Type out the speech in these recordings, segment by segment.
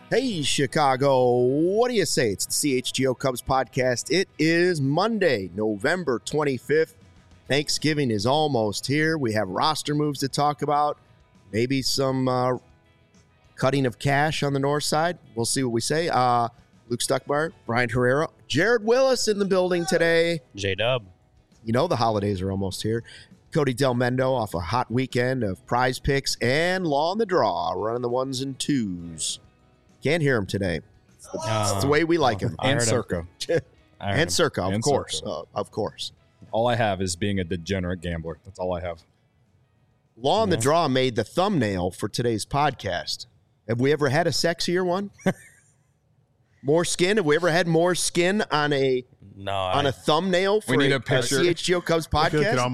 Hey, Chicago, what do you say? It's the CHGO Cubs podcast. It is Monday, November 25th. Thanksgiving is almost here. We have roster moves to talk about, maybe some cutting of cash on the north side. We'll see what we say. Luke Stuckmeyer, Brian Herrera, Jared Willis in the building today. J-Dub. You know the holidays are almost here. Cody Del Mendo off a hot weekend of prize picks and Law on the Draw, running the ones and twos. Can't hear him today. It's the way we like him. And Circa. And Circa, of And course. Circa. Of course. All I have is being a degenerate gambler. That's all I have. Law on the Draw made the thumbnail for today's podcast. Have we ever had a sexier one? More skin? Have we ever had more skin on a thumbnail for need a a picture. CHGO Cubs podcast?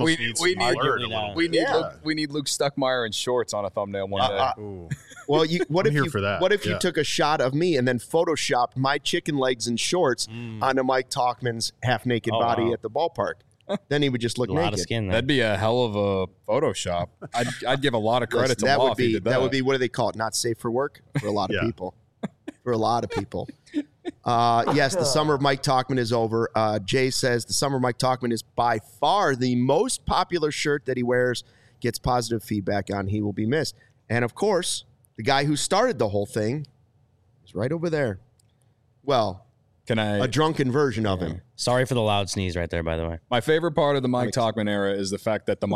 We need Luke Stuckmeyer in shorts on a thumbnail one day. Well, what I'm if you took a shot of me and then photoshopped my chicken legs and shorts onto Mike Talkman's half-naked body at the ballpark? Then he would just look a naked. lot of skin there. That'd be a hell of a Photoshop. I'd give a lot of credit to Law if he did that. That would be, what do they call it? Not safe for work for a lot of people. For a lot of people. Yes, the summer of Mike Talkman is over. Jay says the summer of Mike Talkman is by far the most popular shirt that he wears, gets positive feedback on. He will be missed. And, of course, the guy who started the whole thing is right over there. Well, a drunken version of him. Sorry for the loud sneeze right there, by the way. My favorite part of the Mike Talkman era is the fact that the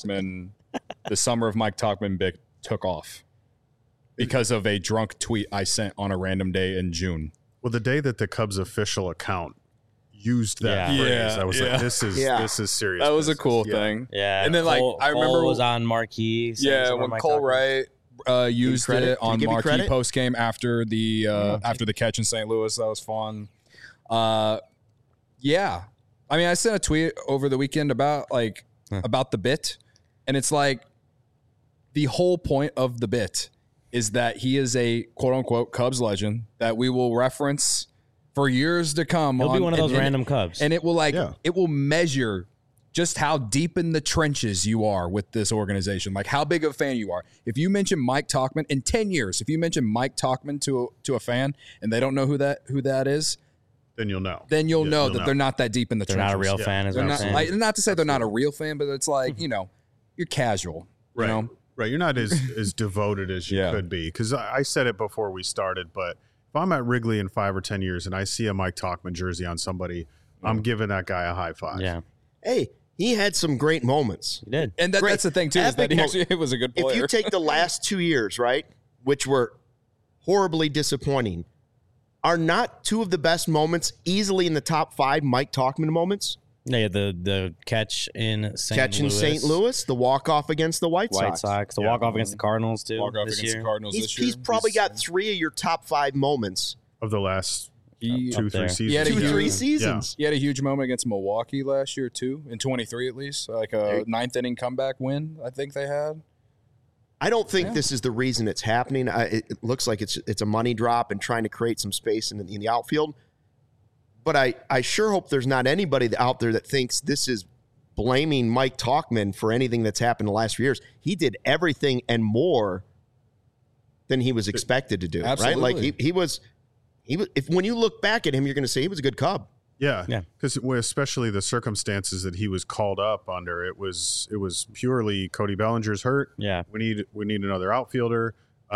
summer of Mike Talkman bit took off because of a drunk tweet I sent on a random day in June. Well, the day that the Cubs official account used that phrase, I was like, this is serious. That was a cool thing. Yeah. And then Cole, I remember Cole was on Marquee. When Cole Wright used it on Marquee post game after the catch in St. Louis. That was fun. Yeah. I mean, I sent a tweet over the weekend about the bit, and it's like the whole point of the bit is that he is a quote-unquote Cubs legend that we will reference for years to come. He'll be one of those random Cubs. And it will it will measure just how deep in the trenches you are with this organization, like how big of a fan you are. If you mention Mike Talkman in 10 years, if you mention Mike Talkman to a fan and they don't know who that is, then you'll know. Then you'll know that they're not that deep in the trenches. They're not a real fan, is what I'm saying. Not to say they're not a real fan, but it's like, you're casual. Right. You know? Right. You're not as devoted as you could be. Because I said it before we started, but if I'm at Wrigley in 5 or 10 years and I see a Mike Talkman jersey on somebody, I'm giving that guy a high five. Yeah. Hey, he had some great moments. He did. And that's the thing, too, is that he was a good player. If you take the last 2 years, right, which were horribly disappointing, are not two of the best moments easily in the top 5 Mike Talkman moments? Yeah, the catch in St. Louis, the walk-off against the White Sox. The walk-off against the Cardinals, too. Walk-off against the Cardinals this year. He's probably got 3 of your top 5 moments. Of the last 2-3 seasons. He had 2-3 seasons. He had a huge moment against Milwaukee last year, too, in 23 at least. Like a ninth-inning comeback win, I think they had. I don't think this is the reason it's happening. It looks like it's a money drop and trying to create some space in the outfield. But I sure hope there's not anybody out there that thinks this is blaming Mike Talkman for anything that's happened the last few years. He did everything and more than he was expected to do. Absolutely. Right? Like he was. If when you look back at him, you're going to say he was a good Cub. Yeah. Because especially the circumstances that he was called up under, it was purely Cody Bellinger's hurt. Yeah. We need another outfielder.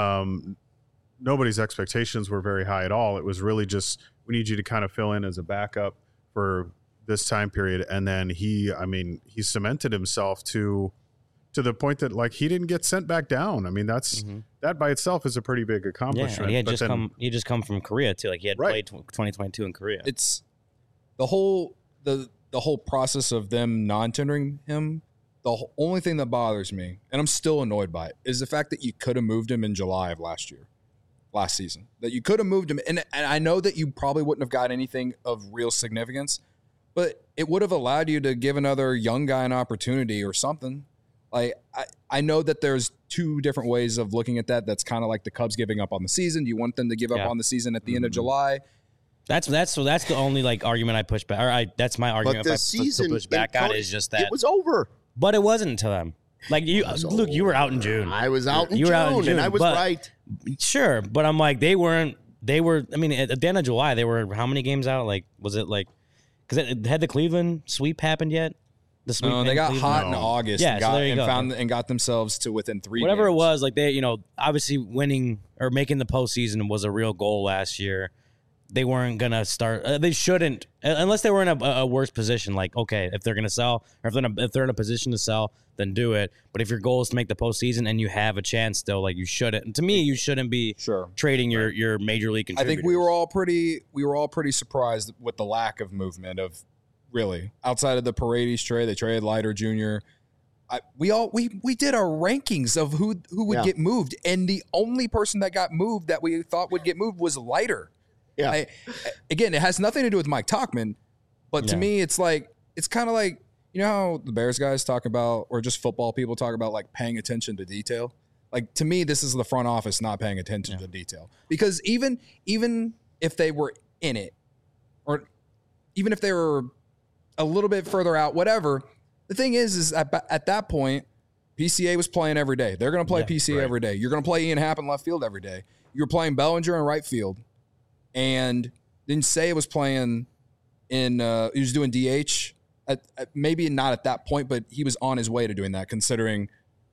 Nobody's expectations were very high at all. It was really just, we need you to kind of fill in as a backup for this time period. And then he cemented himself to the point that he didn't get sent back down. I mean, that by itself is a pretty big accomplishment. Yeah, he just come from Korea too. Like he had played 2022 in Korea. It's the whole process of them non-tendering him. The only thing that bothers me, and I'm still annoyed by it, is the fact that you could have moved him in July of last season. That you could have moved him, and I know that you probably wouldn't have got anything of real significance, but it would have allowed you to give another young guy an opportunity or something. Like I know that there's 2 different ways of looking at that. That's kind of like the Cubs giving up on the season. Do you want them to give up on the season at the end of July? That's the only argument I push back. That's my argument. But the if season I push back on is just that it was over. But it wasn't to them. Like you were out in June. I was out in June, and I was right. Sure, but I'm like they weren't they were. I mean, at the end of July, they were how many games out? Like, was it like? Because it had the Cleveland sweep happened yet? The sweep. No, they got Cleveland? hot in August. Yeah, and so got, there you go. and got themselves to within 3 Whatever games. it was, like they, obviously winning or making the postseason was a real goal last year. They weren't gonna start. They shouldn't, unless they were in a worse position. Like, okay, if they're gonna sell, or if they're in a position to sell, then do it. But if your goal is to make the postseason and you have a chance still, like you shouldn't. And to me, you shouldn't be trading your major league contributors. I think we were all pretty surprised with the lack of movement of really outside of the Paredes trade. They traded Leiter Jr. We did our rankings of who would get moved, and the only person that got moved that we thought would get moved was Leiter. Yeah. Again, it has nothing to do with Mike Tauchman, but to me, it's kind of like, you know how the Bears guys talk about, or just football people talk about, like paying attention to detail. Like, to me, this is the front office not paying attention to detail, because even if they were in it, or even if they were a little bit further out, whatever, the thing is at that point, PCA was playing every day. They're going to play PCA every day. You're going to play Ian Happ in left field every day. You're playing Bellinger in right field. And then Say was playing he was doing DH, maybe not at that point, but he was on his way to doing that, considering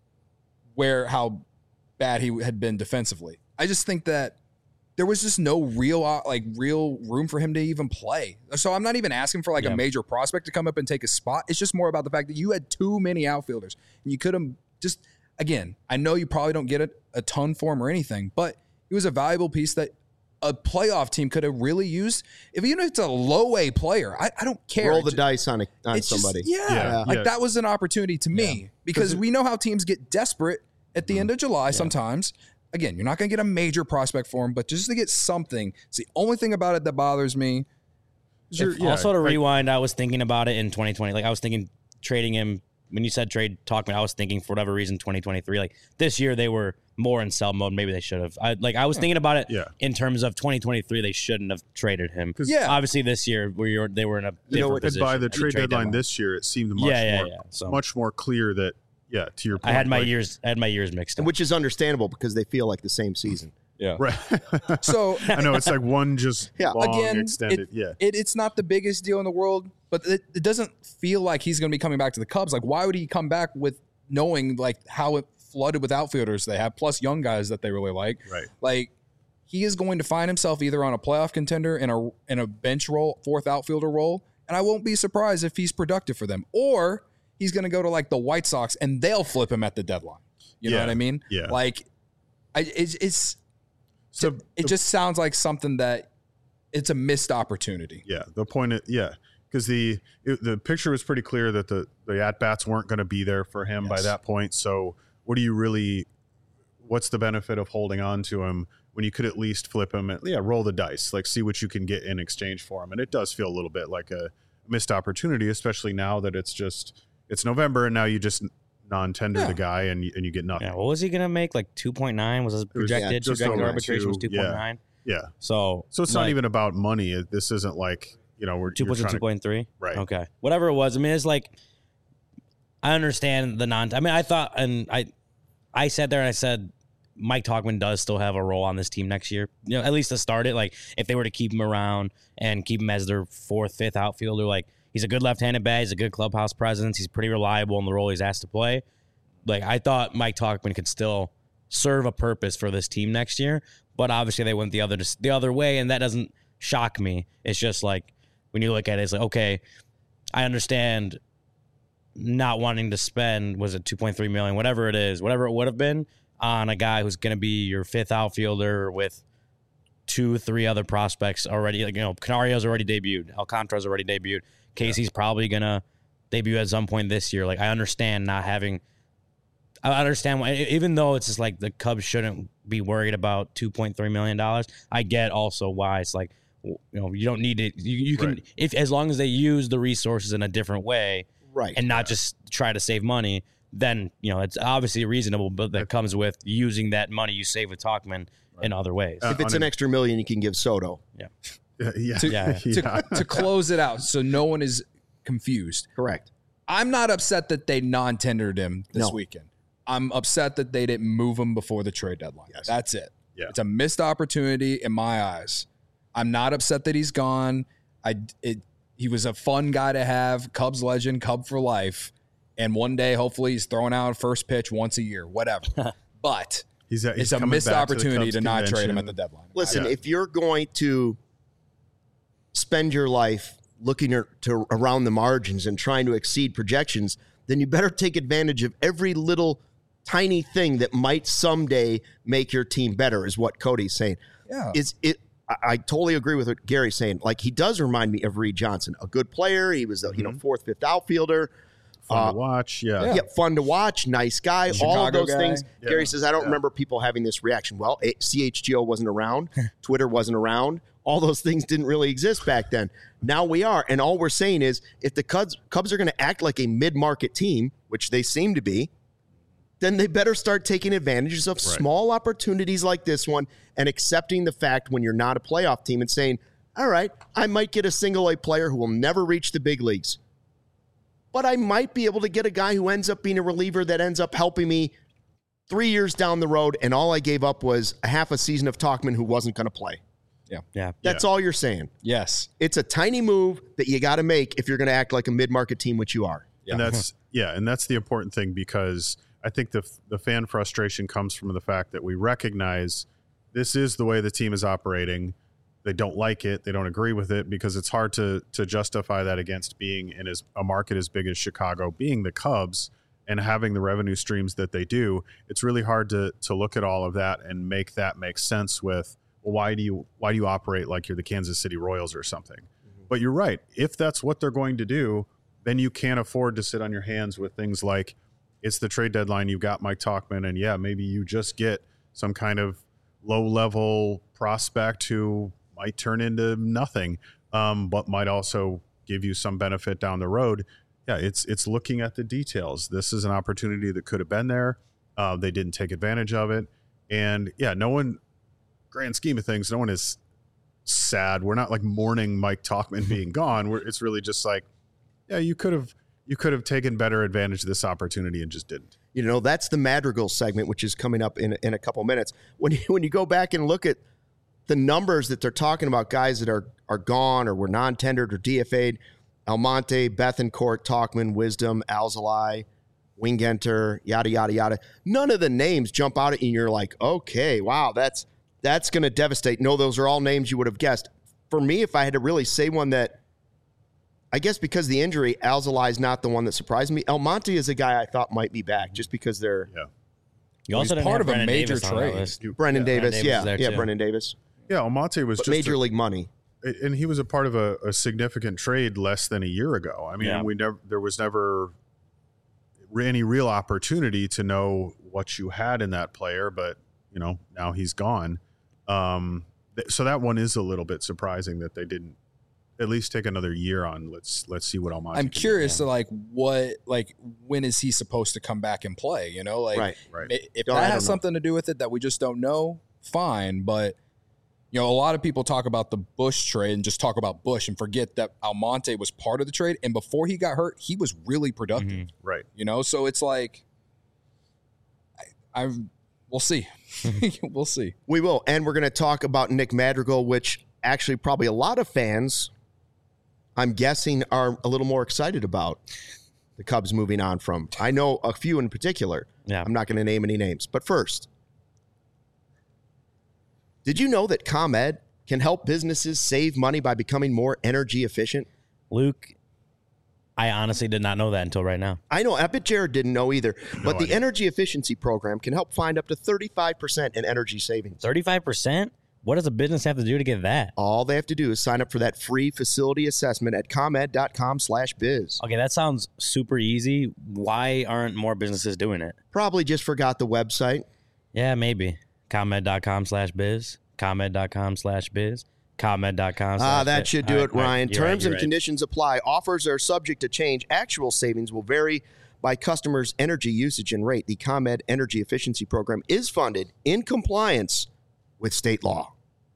how bad he had been defensively. I just think that there was just no real room for him to even play. So I'm not even asking for a major prospect to come up and take a spot. It's just more about the fact that you had too many outfielders, and you could have just, again, I know you probably don't get a ton for him or anything, but he was a valuable piece that a playoff team could have really used. Even if it's a low A player, I don't care. Roll the dice on somebody. That was an opportunity to me, because we know how teams get desperate at the end of July sometimes. Again, you're not going to get a major prospect for him, but just to get something. It's the only thing about it that bothers me. Also, to rewind, I was thinking about it in 2020. Like, I was thinking trading him. When you said trade Tauchman, I was thinking for whatever reason 2023. Like, this year they were more in sell mode. Maybe they should have. I was thinking about it in terms of 2023. They shouldn't have traded him. Obviously this year they were in a different position. And by the trade deadline this year, it seemed much more clear that to your point, I had my years mixed up, which is understandable because they feel like the same season. Yeah. Right. So I know it's like one just long extended. It's not the biggest deal in the world, but it doesn't feel like he's going to be coming back to the Cubs. Like, why would he come back with knowing how it flooded with outfielders they have, plus young guys that they really like? Right. Like, he is going to find himself either on a playoff contender in a bench role, fourth outfielder role, and I won't be surprised if he's productive for them, or he's going to go to the White Sox and they'll flip him at the deadline. You know what I mean? Yeah. It just sounds like something that it's a missed opportunity. Yeah. The point is, because the picture was pretty clear that the at-bats weren't going to be there for him by that point. So what's the benefit of holding on to him when you could at least flip him and roll the dice, see what you can get in exchange for him. And it does feel a little bit like a missed opportunity, especially now that it's November and now you just non-tender the guy and you get nothing. Yeah, what was he going to make? 2.9 was his projected arbitration was 2.9. Yeah. So it's not even about money. This isn't we're 2.3. Right. Okay. Whatever it was. I mean, it's I understand the I mean, I thought, and I sat there and I said, Mike Tauchman does still have a role on this team next year. At least to start it. If they were to keep him around and keep him as their fourth, fifth outfielder, he's a good left-handed bat. He's a good clubhouse presence. He's pretty reliable in the role he's asked to play. I thought Mike Tauchman could still serve a purpose for this team next year, but obviously they went the other way, and that doesn't shock me. It's just when you look at it, it's okay, I understand not wanting to spend, was it $2.3 million, whatever it is, whatever it would have been, on a guy who's going to be your fifth outfielder with 2-3 other prospects already. Canario's already debuted. Alcantara's already debuted. Casey's probably going to debut at some point this year. I understand not having – I understand why, even though it's just the Cubs shouldn't be worried about $2.3 million, I get also why it's you don't need it. You can – if as long as they use the resources in a different way and not just try to save money, then, it's obviously reasonable, but that comes with using that money you save with Tauchman in other ways. If it's an extra $1 million, you can give Soto. Yeah. To close it out so no one is confused. Correct. I'm not upset that they non-tendered him this weekend. I'm upset that they didn't move him before the trade deadline. Yes. That's it. Yeah. It's a missed opportunity in my eyes. I'm not upset that he's gone. He was a fun guy to have, Cubs legend, Cub for life. And one day, hopefully, he's throwing out first pitch once a year, whatever. But it's a missed opportunity to not trade him at the deadline. Listen, if you're going to spend your life looking to around the margins and trying to exceed projections, then you better take advantage of every little tiny thing that might someday make your team better, is what Cody's saying. Yeah. I totally agree with what Gary's saying. Like, he does remind me of Reed Johnson, a good player. He was a fourth, fifth outfielder. Fun to watch. Yeah, fun to watch. Nice guy. All of those things. Yeah. Gary says, I don't remember people having this reaction. Well, CHGO wasn't around. Twitter wasn't around. All those things didn't really exist back then. Now we are. And all we're saying is, if the Cubs are going to act like a mid-market team, which they seem to be, then they better start taking advantages of small opportunities like this one and accepting the fact when you're not a playoff team and saying, all right, I might get a single-A player who will never reach the big leagues, but I might be able to get a guy who ends up being a reliever that ends up helping me 3 years down the road, and all I gave up was a half a season of Tauchman who wasn't going to play. Yeah. That's all you're saying. Yes. It's a tiny move that you got to make if you're going to act like a mid-market team, which you are. Yeah. And that's the important thing, because I think the fan frustration comes from the fact that we recognize this is the way the team is operating. They don't like it. They don't agree with it, because it's hard to justify that against being in a market as big as Chicago, being the Cubs and having the revenue streams that they do. It's really hard to look at all of that and make that make sense with, well, why do you operate like you're the Kansas City Royals or something? Mm-hmm. But you're right. If that's what they're going to do, then you can't afford to sit on your hands with things like, it's the trade deadline, you've got Mike Tauchman, and maybe you just get some kind of low-level prospect who might turn into nothing, but might also give you some benefit down the road. Yeah, it's looking at the details. This is an opportunity that could have been there. They didn't take advantage of it. And, no one, grand scheme of things, no one is sad. We're not like mourning Mike Tauchman being gone. It's really just like, you could have taken better advantage of this opportunity and just didn't. That's the Madrigal segment, which is coming up in a couple minutes. When you go back and look at the numbers that they're talking about, guys that are gone or were non-tendered or DFA'd, Almonte, Bethancourt, Tauchman, Wisdom, Alzolay, Wingenter, yada, yada, yada. None of the names jump out at you and you're like, okay, wow, that's going to devastate. No, those are all names you would have guessed. For me, if I had to really say one that, I guess because the injury, Alzolay is not the one that surprised me. Almonte is a guy I thought might be back just because they're You also didn't part have of a Brendan major Davis on that trade. list. Brendan Davis. Davis is there too. Brendan Davis. Yeah, Almonte was But just major league money. and he was a part of a significant trade less than a year ago. I mean, there was never any real opportunity to know what you had in that player, but now he's gone. So that one is a little bit surprising that they didn't at least take another year on. Let's see what Almonte. I'm curious to when is he supposed to come back and play? Right. If that has something to do with it that we just don't know, fine. But a lot of people talk about the Bush trade and just talk about Bush and forget that Almonte was part of the trade. And before he got hurt, he was really productive. Mm-hmm. Right. So it's like, we'll see. We'll see. We will. And we're going to talk about Nick Madrigal, which actually probably a lot of fans, I'm guessing, are a little more excited about the Cubs moving on from. I know a few in particular. Yeah. I'm not going to name any names. But first, did you know that ComEd can help businesses save money by becoming more energy efficient? Luke, I honestly did not know that until right now. I know. I bet Jared didn't know either. But the idea. energy efficiency program can help find up to 35% in energy savings. 35%? What does a business have to do to get that? All they have to do is sign up for that free facility assessment at comed.com/biz. Okay, that sounds super easy. Why aren't more businesses doing it? Probably just forgot the website. Yeah, maybe. ComEd.com/biz. ComEd.com/biz. ComEd.com. That should do it, Ryan. You're Terms and right. conditions apply. Offers are subject to change. Actual savings will vary by customers' energy usage and rate. The ComEd Energy Efficiency Program is funded in compliance with state law.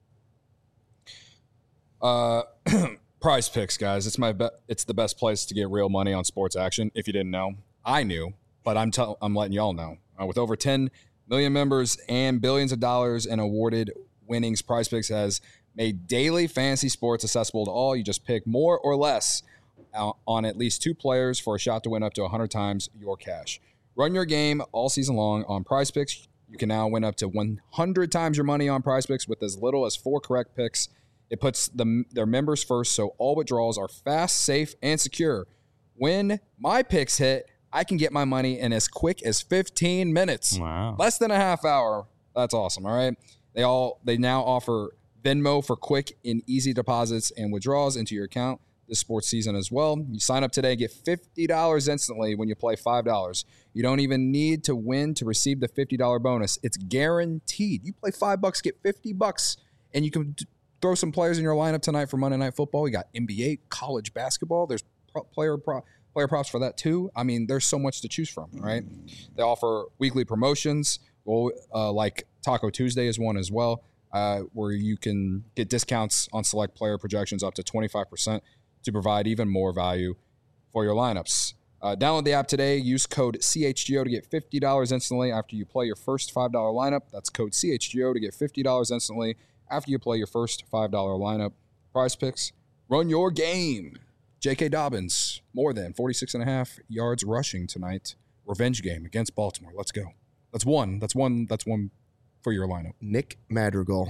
Prize Picks, guys. It's the best place to get real money on sports action. If you didn't know, I knew, but I'm letting y'all know. With over $10 Million members and billions of dollars in awarded winnings. PrizePicks has made daily fantasy sports accessible to all. You just pick more or less on at least 2 players for a shot to win up to 100 times your cash. Run your game all season long on PrizePicks. You can now win up to 100 times your money on PrizePicks with as little as 4 correct picks. It puts their members first, so all withdrawals are fast, safe, and secure. When my picks hit, I can get my money in as quick as 15 minutes. Wow. Less than a half hour. That's awesome, all right? They now offer Venmo for quick and easy deposits and withdrawals into your account this sports season as well. You sign up today, get $50 instantly when you play $5. You don't even need to win to receive the $50 bonus. It's guaranteed. You play $5, get $50, and you can throw some players in your lineup tonight for Monday Night Football. We got NBA, college basketball. There's player props for that too. I mean, there's so much to choose from, right? They offer weekly promotions, like Taco Tuesday is one as well, where you can get discounts on select player projections up to 25%. To provide even more value for your lineups. Download the app today. Use code CHGO to get $50 instantly after you play your first $5 lineup. That's code CHGO to get $50 instantly after you play your first $5 lineup. PrizePicks, run your game. J.K. Dobbins, more than 46.5 yards rushing tonight. Revenge game against Baltimore. Let's go. That's one for your lineup. Nick Madrigal.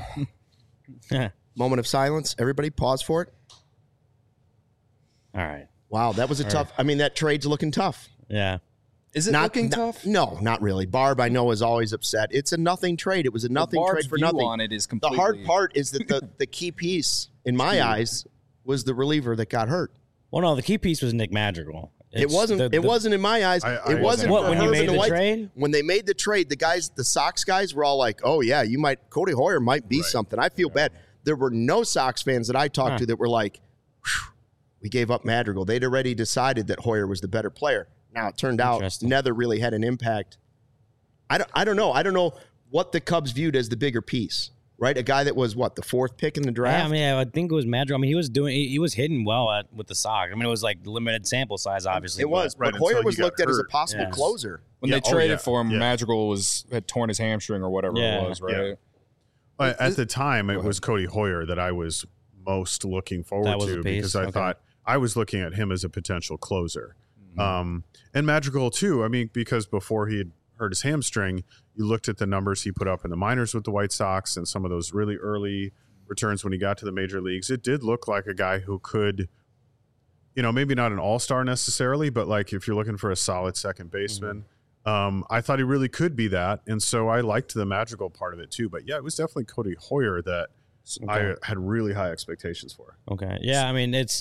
Moment of silence. Everybody pause for it. All right. Wow, that was a tough. I mean, that trade's looking tough. Yeah. Is it looking tough? No, not really. Barb, I know, is always upset. It's a nothing trade. It was a nothing trade for nothing. On it is completely... The hard part is that the key piece, in my eyes, was the reliever that got hurt. Well, no, the key piece was Nick Madrigal. It wasn't in my eyes. It wasn't what, for when you Herb made and the White. trade? When they made the trade, the Sox guys were all like, "Oh yeah, Cody Hoyer might be something." I feel bad. There were no Sox fans that I talked to that were like, "Whew, we gave up Madrigal." They'd already decided that Hoyer was the better player. Now it turned out Nether really had an impact. I don't know. I don't know what the Cubs viewed as the bigger piece. Right, a guy that was the 4th pick in the draft. Yeah, I mean, I think it was Madrigal. I mean, he was hitting well with the Sox. I mean, it was like limited sample size, obviously. It was, but Hoyer was looked at as a possible closer. When they traded for him, Madrigal had torn his hamstring or whatever it was, right? Yeah. At the time, it was Cody Hoyer that I was most looking forward to because I thought I was looking at him as a potential closer. And Madrigal too. I mean, because before he had hurt his hamstring, you looked at the numbers he put up in the minors with the White Sox and some of those really early returns when he got to the major leagues. It did look like a guy who could, maybe not an all-star necessarily, but like if you're looking for a solid second baseman, I thought he really could be that. And so I liked the Madrigal part of it too. But yeah, it was definitely Cody Hoyer that I had really high expectations for. Okay. Yeah, I mean, it's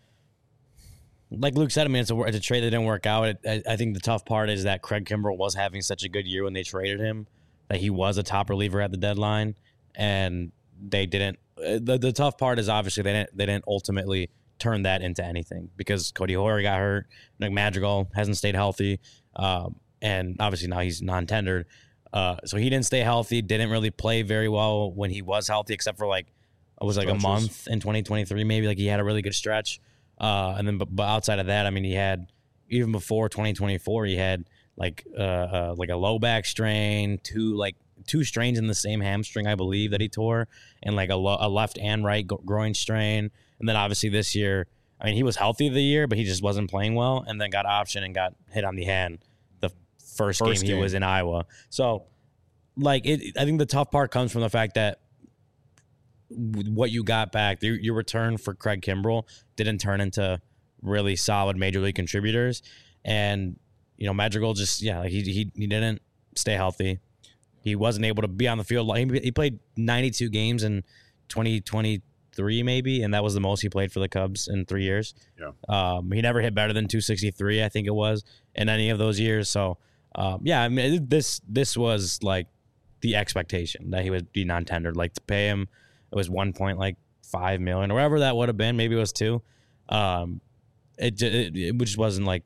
like Luke said, I mean, it's a trade that didn't work out. I think the tough part is that Craig Kimbrell was having such a good year when they traded him, that he was a top reliever at the deadline, and they didn't. The tough part is obviously they didn't ultimately turn that into anything because Cody Hoyer got hurt, Nick Madrigal hasn't stayed healthy, and obviously now he's non-tendered, so he didn't stay healthy, didn't really play very well when he was healthy, except for a month in 2023 maybe. Like he had a really good stretch. And then, but outside of that, I mean, he had, even before 2024, he had like a low back strain, two strains in the same hamstring, I believe, that he tore, and like a left and right groin strain. And then obviously this year, I mean, he was healthy the year, but he just wasn't playing well, and then got optioned and got hit on the hand the first game he was in Iowa. So, I think the tough part comes from the fact that what you got back, your return for Craig Kimbrell didn't turn into really solid major league contributors, and Madrigal just he didn't stay healthy. He wasn't able to be on the field. He played 92 games in 2023 maybe, and that was the most he played for the Cubs in 3 years. Yeah, he never hit better than 263, I think it was, in any of those years. So I mean, this was like the expectation that he would be non-tendered. Like, to pay him, it was $1.5 million or whatever that would have been. Maybe it was $2 million. It just wasn't like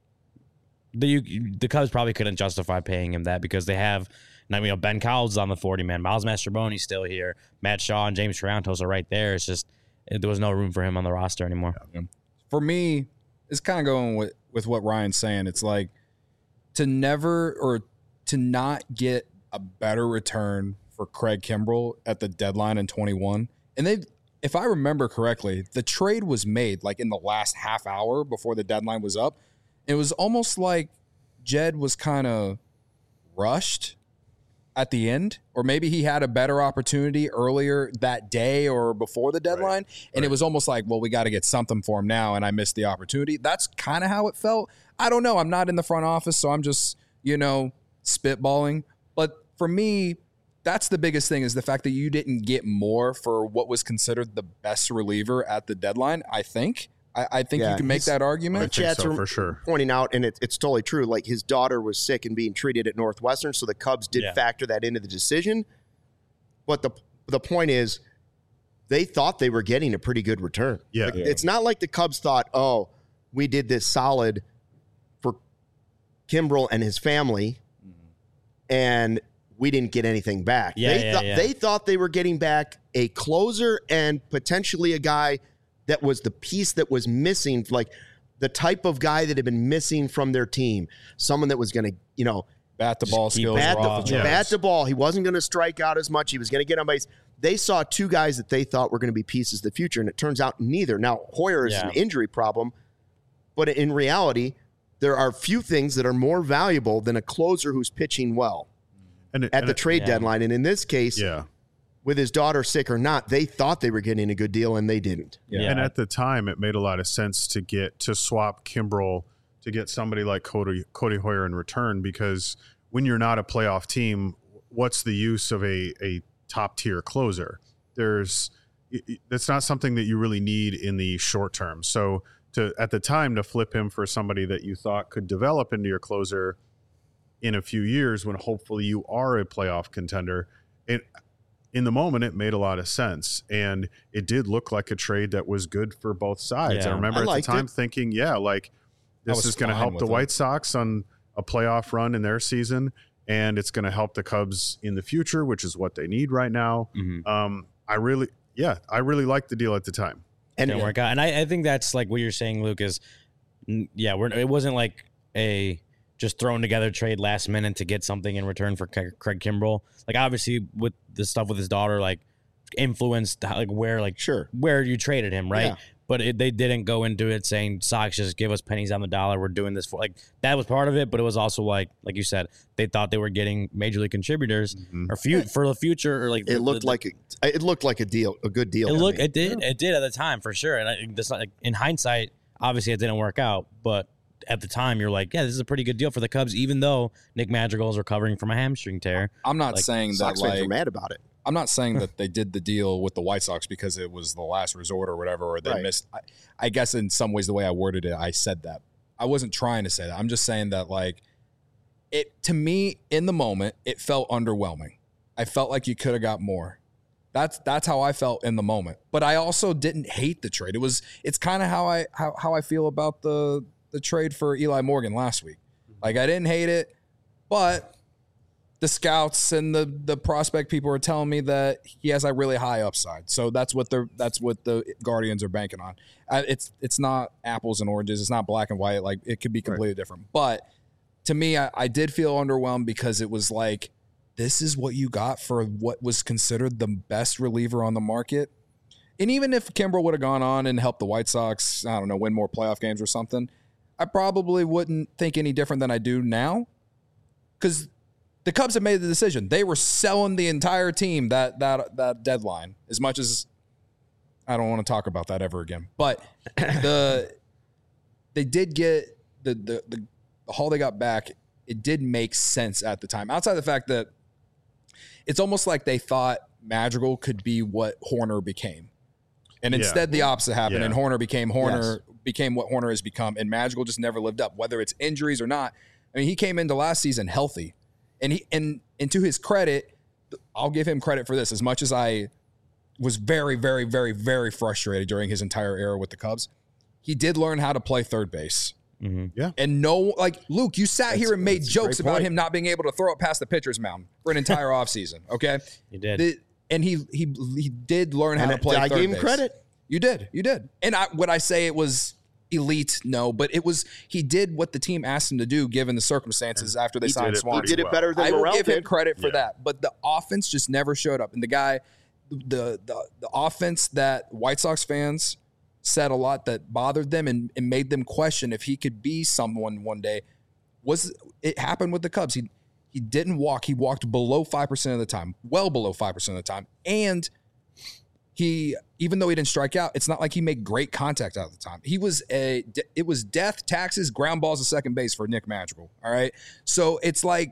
the Cubs probably couldn't justify paying him that because they have, Ben Cowles is on the 40-man. Miles Mastrobuoni's still here. Matt Shaw and James Triantos are right there. It's just there was no room for him on the roster anymore. Yeah. For me, it's kind of going with what Ryan's saying. It's like to not get a better return for Craig Kimbrell at the deadline in 21. And if I remember correctly, the trade was made like in the last half hour before the deadline was up. It was almost like Jed was kind of rushed at the end, or maybe he had a better opportunity earlier that day or before the deadline. And it was almost like, well, we got to get something for him now. And I missed the opportunity. That's kind of how it felt. I don't know. I'm not in the front office, so I'm just, spitballing. But for me, that's the biggest thing, is the fact that you didn't get more for what was considered the best reliever at the deadline. I think you can make that argument. I think so, for sure. Pointing out, and it's totally true, like his daughter was sick and being treated at Northwestern, so the Cubs did factor that into the decision. But the point is, they thought they were getting a pretty good return. Yeah. It's not like the Cubs thought, oh, we did this solid for Kimbrell and his family, and we didn't get anything back. They thought they were getting back a closer and potentially a guy that was the piece that was missing, like the type of guy that had been missing from their team. Someone that was going to, bat the ball skills, bat the ball. He wasn't going to strike out as much. He was going to get on base. They saw two guys that they thought were going to be pieces of the future, and it turns out neither. Now, Hoyer is an injury problem, but in reality, there are few things that are more valuable than a closer who's pitching well at the trade deadline. And in this case, with his daughter sick or not, they thought they were getting a good deal, and they didn't. Yeah. And at the time, it made a lot of sense to swap Kimbrell to get somebody like Cody Hoyer in return, because when you're not a playoff team, what's the use of a top-tier closer? That's not something that you really need in the short term. So at the time, to flip him for somebody that you thought could develop into your closer in a few years, when hopefully you are a playoff contender, in the moment, it made a lot of sense, and it did look like a trade that was good for both sides. I remember at the time thinking, this is going to help the White Sox on a playoff run in their season, and it's going to help the Cubs in the future, which is what they need right now. Mm-hmm. I really liked the deal at the time. And didn't work out. And I think that's like what you're saying, Luke, is, it wasn't like a just thrown together trade last minute to get something in return for Craig Kimbrell. Like, obviously, with the stuff with his daughter, like, influenced where you traded him, right? Yeah. But they didn't go into it saying, Sox, just give us pennies on the dollar. We're doing this for, like, that was part of it. But it was also like you said, they thought they were getting major league contributors or for the future, or like it looked like a deal, a good deal. It did at the time for sure. And that's not, like, in hindsight, obviously it didn't work out, but at the time, you're like, this is a pretty good deal for the Cubs, even though Nick Madrigal is recovering from a hamstring tear. I'm not saying that Sox fans are mad about it. I'm not saying that they did the deal with the White Sox because it was the last resort or whatever, or they missed. I guess in some ways, the way I worded it, I said that. I wasn't trying to say that. I'm just saying that, like, to me, in the moment, it felt underwhelming. I felt like you could have got more. That's how I felt in the moment. But I also didn't hate the trade. It's kind of how I feel about the trade for Eli Morgan last week. Like, I didn't hate it, but the scouts and the prospect people are telling me that he has a really high upside. So that's what the Guardians are banking on. It's not apples and oranges. It's not black and white. Like, it could be completely different. But to me, I did feel underwhelmed, because it was like, this is what you got for what was considered the best reliever on the market. And even if Kimbrell would have gone on and helped the White Sox, I don't know, win more playoff games or something, I probably wouldn't think any different than I do now, because the Cubs have made the decision. They were selling the entire team that deadline, as much as I don't want to talk about that ever again. But they did get the haul they got back. It did make sense at the time, outside the fact that it's almost like they thought Madrigal could be what Hoerner became. And instead the opposite happened, and Hoerner became what Hoerner has become, and Madrigal just never lived up, whether it's injuries or not. I mean, he came into last season healthy, and to his credit, I'll give him credit for this. As much as I was very, very, very, very frustrated during his entire era with the Cubs, he did learn how to play third base. Mm-hmm. Yeah. And Luke, you sat here and made jokes about him not being able to throw it past the pitcher's mound for an entire offseason. Okay. He did. And he did learn how to play third base. I gave him credit. You did. And would I say it was elite, no, but he did what the team asked him to do given the circumstances after they signed Swanson. He did it better than Morel did. I will give him credit for that, but the offense just never showed up. And the guy, the offense that White Sox fans said a lot that bothered them and made them question if he could be someone one day, it happened with the Cubs. He didn't walk. He walked below 5% of the time, well below 5% of the time. And even though he didn't strike out, it's not like he made great contact out of the time. It was death, taxes, ground balls to second base for Nick Madrigal. All right. So it's like,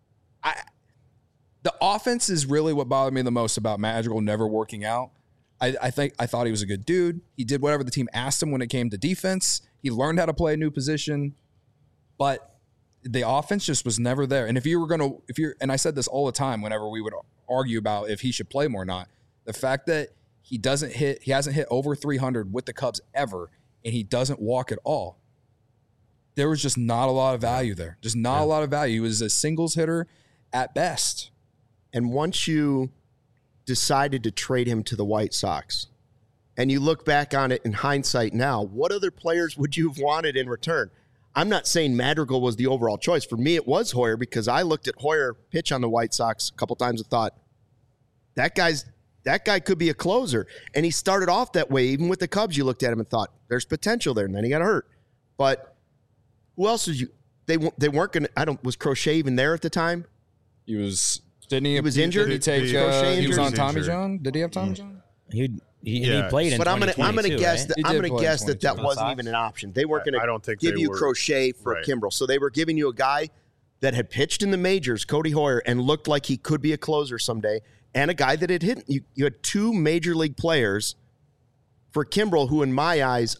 the offense is really what bothered me the most about Madrigal never working out. I thought he was a good dude. He did whatever the team asked him when it came to defense. He learned how to play a new position, but the offense just was never there. And and I said this all the time whenever we would argue about if he should play more or not, the fact that he hasn't hit over 300 with the Cubs ever, and he doesn't walk at all. There was just not a lot of value there. Just not a lot of value. He was a singles hitter at best. And once you decided to trade him to the White Sox, and you look back on it in hindsight now, what other players would you have wanted in return? I'm not saying Madrigal was the overall choice. For me, it was Hoyer, because I looked at Hoyer pitch on the White Sox a couple times and thought, that guy could be a closer. And he started off that way. Even with the Cubs, you looked at him and thought, there's potential there. And then he got hurt. But who else was they weren't going to, was Crochet even there at the time? He was, didn't he? He was injured? Did he take, he was on Tommy John? Did he have Tommy John? He played in 2022. But I'm gonna guess right? that wasn't even an option. They weren't going to give you Crochet for Kimbrel. So they were giving you a guy that had pitched in the majors, Cody Hoyer, and looked like he could be a closer someday, and a guy that had hit. You had two major league players for Kimbrel, who in my eyes,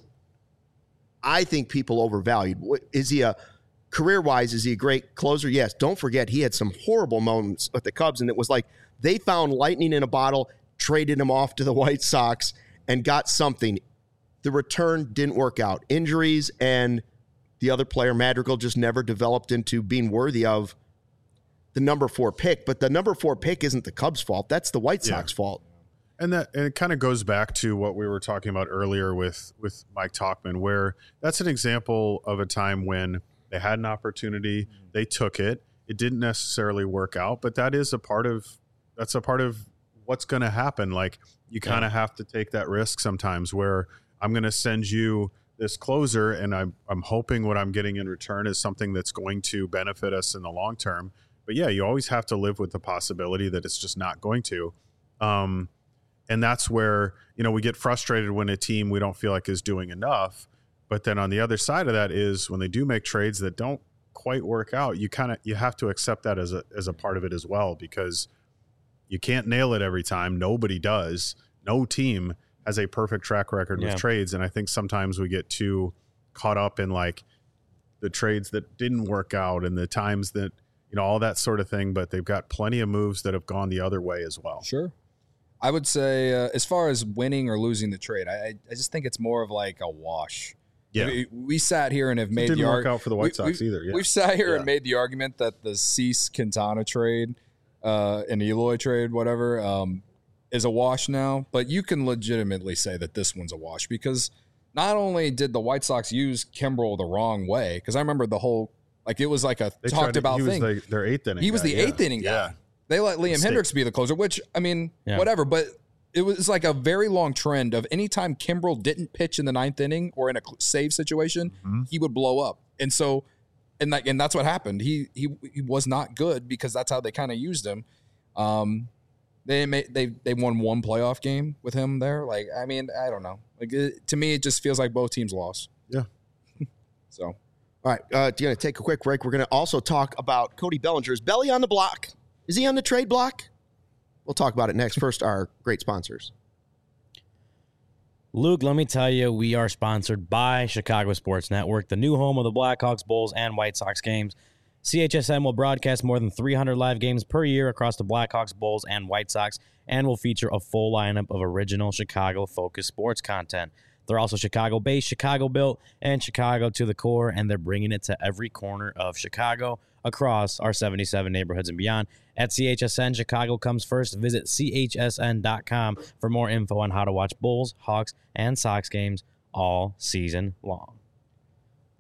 I think people overvalued. Is he career-wise, is he a great closer? Yes. Don't forget, he had some horrible moments with the Cubs, and it was like they found lightning in a bottle, traded him off to the White Sox, and got something. The return didn't work out. Injuries and the other player, Madrigal, just never developed into being worthy of the number 4 pick. But the number 4 pick isn't the Cubs' fault. That's the White Sox fault. And it kind of goes back to what we were talking about earlier with Mike Tauchman, where that's an example of a time when they had an opportunity, they took it. It didn't necessarily work out, but that's a part of what's going to happen. Like, you kind of have to take that risk sometimes, where I'm going to send you this closer, and I'm hoping what I'm getting in return is something that's going to benefit us in the long term. But yeah, you always have to live with the possibility that it's just not going to. And that's where, we get frustrated when a team we don't feel like is doing enough. But then on the other side of that is when they do make trades that don't quite work out, you have to accept that as a part of it as well, because you can't nail it every time. Nobody does. No team has a perfect track record with trades. And I think sometimes we get too caught up in like the trades that didn't work out and the times that, all that sort of thing. But they've got plenty of moves that have gone the other way as well. Sure. I would say as far as winning or losing the trade, I just think it's more of like a wash. Yeah. We sat here and have made the argument. It didn't work out for the White Sox either. Yeah. We've sat here and made the argument that the Cease-Quintana trade and Eloy trade, whatever, is a wash now. But you can legitimately say that this one's a wash, because not only did the White Sox use Kimbrel the wrong way, because I remember the whole, like, it was like a talked about thing. He was their 8th inning He was the 8th inning guy. Yeah. They let Liam Hendricks be the closer, which, I mean, whatever. But it was like a very long trend of anytime Kimbrel didn't pitch in the 9th inning or in a save situation, he would blow up. And so, and that's what happened. He was not good, because that's how they kind of used him. They won one playoff game with him there. Like, I mean, I don't know. Like, to me, it just feels like both teams lost. Yeah. So, all right, going to take a quick break. We're going to also talk about Cody Bellinger's belly on the block. Is he on the trade block? We'll talk about it next. First, our great sponsors. Luke, let me tell you, we are sponsored by Chicago Sports Network, the new home of the Blackhawks, Bulls, and White Sox games. CHSN will broadcast more than 300 live games per year across the Blackhawks, Bulls, and White Sox, and will feature a full lineup of original Chicago-focused sports content. They're also Chicago-based, Chicago-built, and Chicago to the core, and they're bringing it to every corner of Chicago across our 77 neighborhoods and beyond. At CHSN, Chicago comes first. Visit chsn.com for more info on how to watch Bulls, Hawks, and Sox games all season long.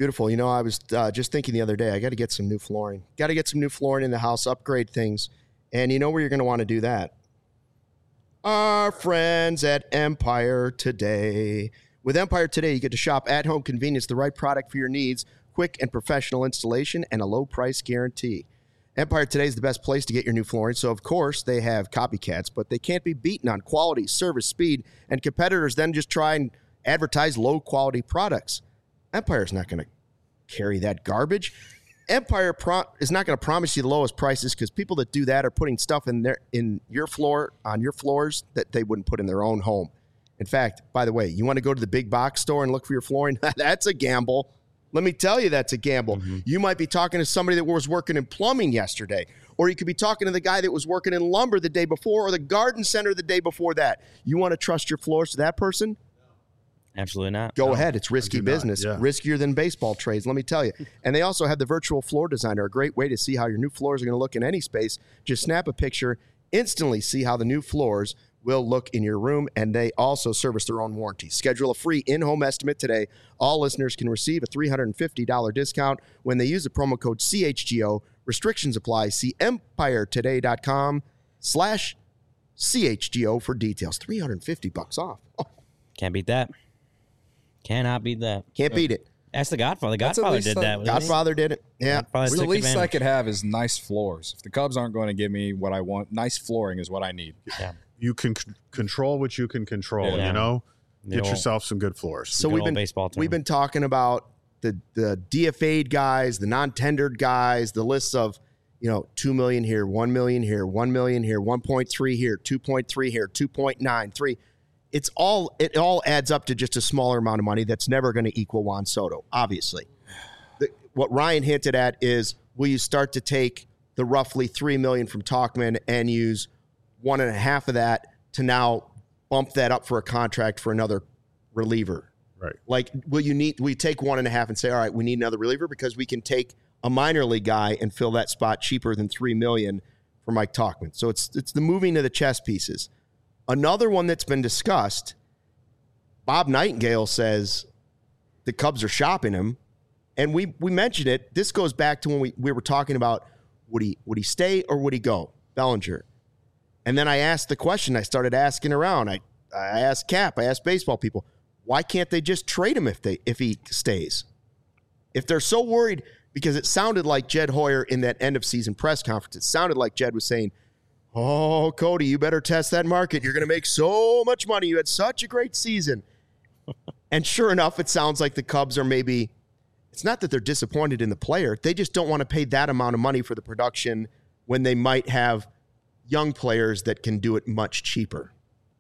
Beautiful. You know, I was just thinking the other day, I got to get some new flooring. Got to get some new flooring in the house, upgrade things. And you know where you're going to want to do that? Our friends at Empire Today. With Empire Today, you get to shop at home convenience, the right product for your needs, quick and professional installation, and a low price guarantee. Empire Today is the best place to get your new flooring. So, of course, they have copycats, but they can't be beaten on quality, service, speed, and competitors then just try and advertise low-quality products. Empire's not going to carry that garbage. Empire is not going to promise you the lowest prices because people that do that are putting stuff on your floors that they wouldn't put in their own home. In fact, by the way, you want to go to the big box store and look for your flooring? That's a gamble. Let me tell you, that's a gamble. Mm-hmm. You might be talking to somebody that was working in plumbing yesterday, or you could be talking to the guy that was working in lumber the day before, or the garden center the day before that. You want to trust your floors to that person? Absolutely not. Go ahead. It's risky business. Yeah. Riskier than baseball trades, let me tell you. And they also have the virtual floor designer, a great way to see how your new floors are going to look in any space. Just snap a picture, instantly see how the new floors will look in your room, and they also service their own warranty. Schedule a free in-home estimate today. All listeners can receive a $350 discount when they use the promo code CHGO. Restrictions apply. See EmpireToday.com/CHGO for details. $350 off. Oh. Can't beat that. Cannot beat that. Can't beat it. That's the Godfather. Godfather did that. Godfather did it. Yeah. The least I could have is nice floors. If the Cubs aren't going to give me what I want, nice flooring is what I need. Yeah. You can control what you can control, you know? Get yourself some good floors. So we've been talking about the DFA'd guys, the non-tendered guys, the lists of, $2 million here, $1 million here, $1 million here, 1.3 here, 2.3 here, 2.93. It all adds up to just a smaller amount of money that's never going to equal Juan Soto, obviously. What Ryan hinted at is, will you start to take the roughly $3 million from Tauchman and use 1.5 of that to now bump that up for a contract for another reliever? Right. Like, will you take 1.5 and say, all right, we need another reliever because we can take a minor league guy and fill that spot cheaper than $3 million for Mike Tauchman. So it's the moving of the chess pieces. Another one that's been discussed, Bob Nightingale says the Cubs are shopping him. And we mentioned it. This goes back to when we were talking about would he stay or would he go, Bellinger. And then I asked the question. I started asking around. I asked Cap. I asked baseball people, why can't they just trade him if he stays? If they're so worried, because it sounded like Jed Hoyer in that end of season press conference, it sounded like Jed was saying, oh, Cody, you better test that market. You're going to make so much money. You had such a great season. And sure enough, it sounds like the Cubs are maybe, it's not that they're disappointed in the player. They just don't want to pay that amount of money for the production when they might have young players that can do it much cheaper.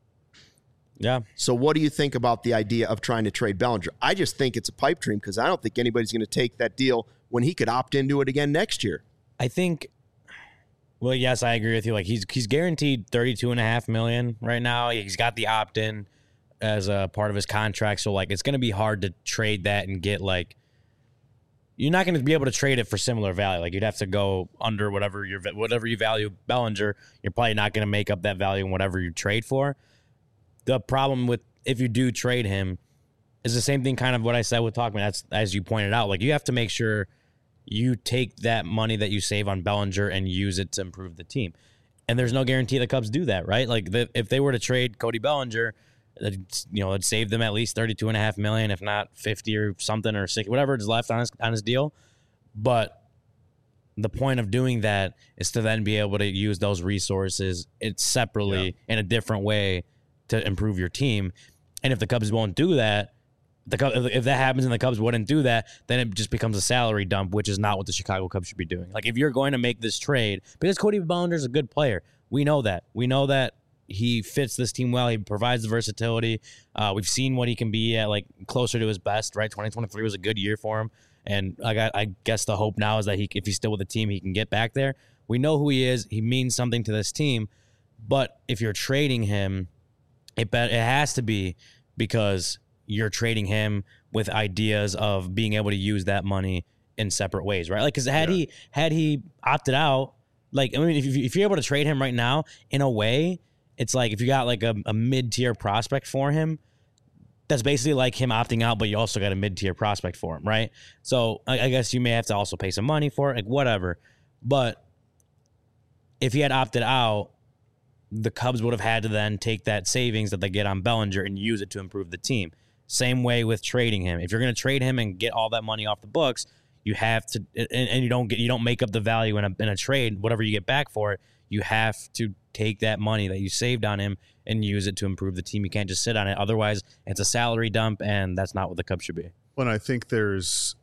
Yeah. So what do you think about the idea of trying to trade Bellinger? I just think it's a pipe dream because I don't think anybody's going to take that deal when he could opt into it again next year. I think, well, yes, I agree with you. Like he's guaranteed $32.5 million right now. He's got the opt-in as a part of his contract. So like, it's going to be hard to trade that and get like, you're not going to be able to trade it for similar value. Like you'd have to go under whatever you value Bellinger. You're probably not going to make up that value in whatever you trade for. The problem with if you do trade him is the same thing kind of what I said with Tauchman. That's as you pointed out. Like you have to make sure you take that money that you save on Bellinger and use it to improve the team. And there's no guarantee the Cubs do that, right? Like if they were to trade Cody Bellinger, it'd save them at least $32.5 million, if not 50 or something or 60, whatever is left on his deal. But the point of doing that is to then be able to use those resources separately in a different way to improve your team. And if the Cubs won't do that, if that happens and the Cubs wouldn't do that, then it just becomes a salary dump, which is not what the Chicago Cubs should be doing. Like if you're going to make this trade, because Cody Bellinger is a good player, we know that. We know that he fits this team well. He provides the versatility. We've seen what he can be at, like closer to his best, right? 2023 was a good year for him. And I guess the hope now is that if he's still with the team, he can get back there. We know who he is. He means something to this team. But if you're trading him, it has to be because you're trading him with ideas of being able to use that money in separate ways, right? Like, because had he opted out, like, I mean, if you're able to trade him right now, in a way, it's like if you got like a mid-tier prospect for him, that's basically like him opting out, but you also got a mid-tier prospect for him, right? So I guess you may have to also pay some money for it, like whatever. But if he had opted out, the Cubs would have had to then take that savings that they get on Bellinger and use it to improve the team. Same way with trading him. If you're going to trade him and get all that money off the books, you have to, and you don't make up the value in a trade. Whatever you get back for it, you have to take that money that you saved on him and use it to improve the team. You can't just sit on it. Otherwise, it's a salary dump, and that's not what the Cubs should be. When I think there's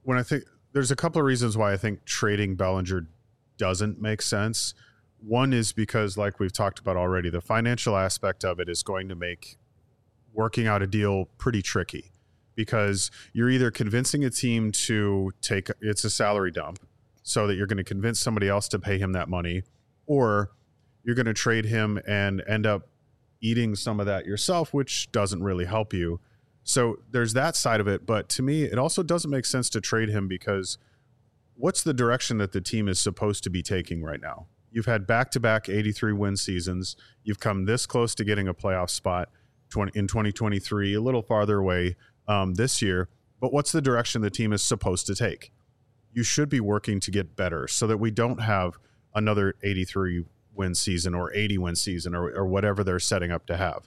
a couple of reasons why I think trading Bellinger doesn't make sense. One is because, like we've talked about already, the financial aspect of it is going to make working out a deal pretty tricky, because you're either convincing a team to take it's a salary dump so that you're going to convince somebody else to pay him that money, or you're going to trade him and end up eating some of that yourself, which doesn't really help you. So there's that side of it. But to me, it also doesn't make sense to trade him, because what's the direction that the team is supposed to be taking right now? You've had back-to-back 83-win seasons. You've come this close to getting a playoff spot in 2023, a little farther away this year. But what's the direction the team is supposed to take? You should be working to get better so that we don't have another 83-win season or 80-win season or whatever they're setting up to have.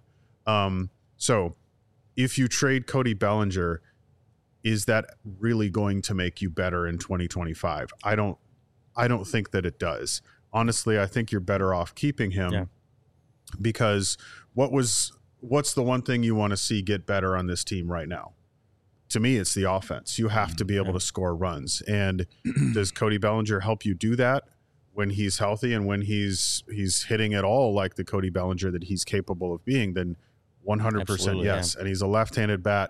So if you trade Cody Bellinger, is that really going to make you better in 2025? I don't think that it does. Honestly, I think you're better off keeping him, because what's the one thing you want to see get better on this team right now? To me, it's the offense. You have to be able to score runs. And does Cody Bellinger help you do that when he's healthy and when he's hitting at all like the Cody Bellinger that he's capable of being? Then 100% yes. And he's a left-handed bat.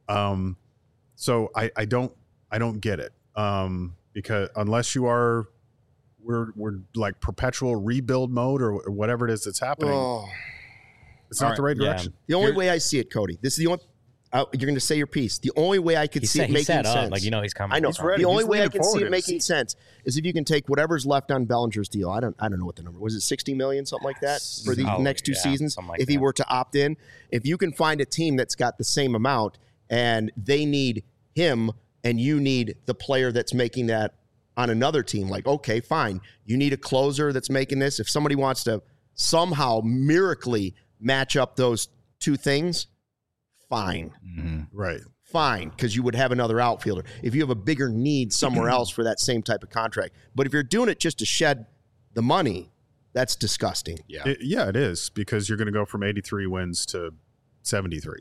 So I don't get it. Because unless you are we're like perpetual rebuild mode or whatever it is that's happening. It's not the right direction. The only way I see it, Cody, this is the only you're going to say your piece. The only way I could see it making sense. Like, he's coming. I know. The only way I can see it making sense is if you can take whatever's left on Bellinger's deal. I don't know what the number was. It 60 million, something like that, for the next two seasons. Like if he were to opt in, if you can find a team that's got the same amount and they need him and you need the player that's making that on another team, like, okay, fine. You need a closer that's making this. If somebody wants to somehow miraculously match up those two things, fine. Mm-hmm. Right. Fine, because you would have another outfielder. If you have a bigger need somewhere else for that same type of contract. But if you're doing it just to shed the money, that's disgusting. Yeah, it is, because you're going to go from 83 wins to 73.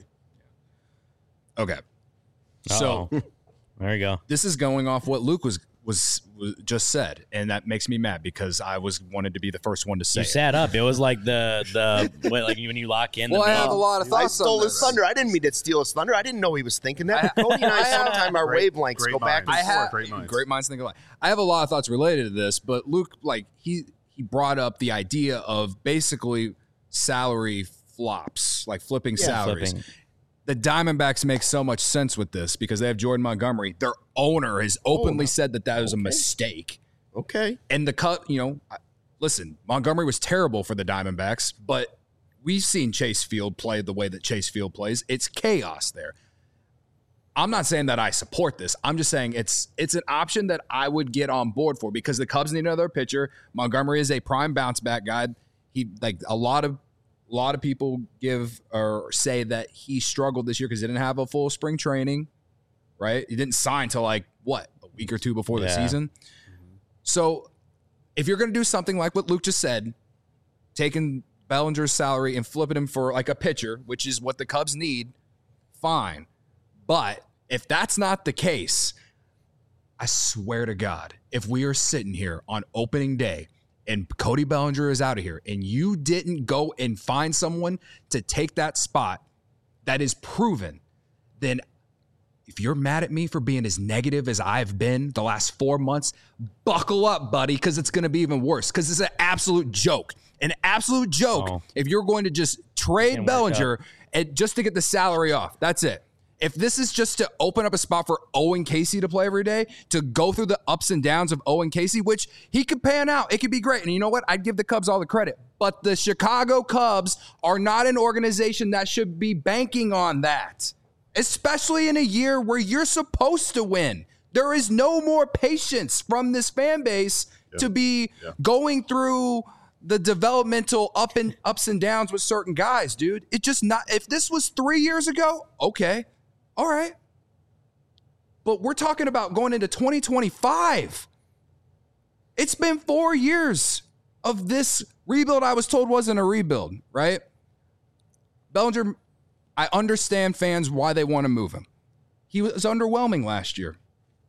Okay. So there you go. This is going off what Luke was just said, and that makes me mad because I wanted to be the first one to say. You sat up. It was like like when you lock in. Well, I have a lot of thoughts. I stole his thunder. I didn't mean to steal his thunder. I didn't know he was thinking that. But Cody and I sometimes our wavelengths go back and forth. Great minds think alike. I have a lot of thoughts related to this, but Luke, like he brought up the idea of basically salary flops, like flipping salaries. The Diamondbacks make so much sense with this because they have Jordan Montgomery. Their owner has openly said that was a mistake. Okay. And listen, Montgomery was terrible for the Diamondbacks, but we've seen Chase Field play the way that Chase Field plays. It's chaos there. I'm not saying that I support this. I'm just saying it's an option that I would get on board for because the Cubs need another pitcher. Montgomery is a prime bounce back guy. He a lot of people give or say that he struggled this year because he didn't have a full spring training, right? He didn't sign till a week or two before the season. So if you're going to do something like what Luke just said, taking Bellinger's salary and flipping him for like a pitcher, which is what the Cubs need, fine. But if that's not the case, I swear to God, if we are sitting here on opening day and Cody Bellinger is out of here, and you didn't go and find someone to take that spot that is proven, then if you're mad at me for being as negative as I've been the last 4 months, buckle up, buddy, because it's going to be even worse, because it's an absolute joke. An absolute joke if you're going to just trade Bellinger and just to get the salary off. That's it. If this is just to open up a spot for Owen Casey to play every day, to go through the ups and downs of Owen Casey, which he could pan out, it could be great. And you know what? I'd give the Cubs all the credit. But the Chicago Cubs are not an organization that should be banking on that, especially in a year where you're supposed to win. There is no more patience from this fan base to be going through the developmental ups and downs with certain guys, dude. It just not. If this was 3 years ago, okay. All right. But we're talking about going into 2025. It's been 4 years of this rebuild I was told wasn't a rebuild, right? Bellinger, I understand fans why they want to move him. He was underwhelming last year.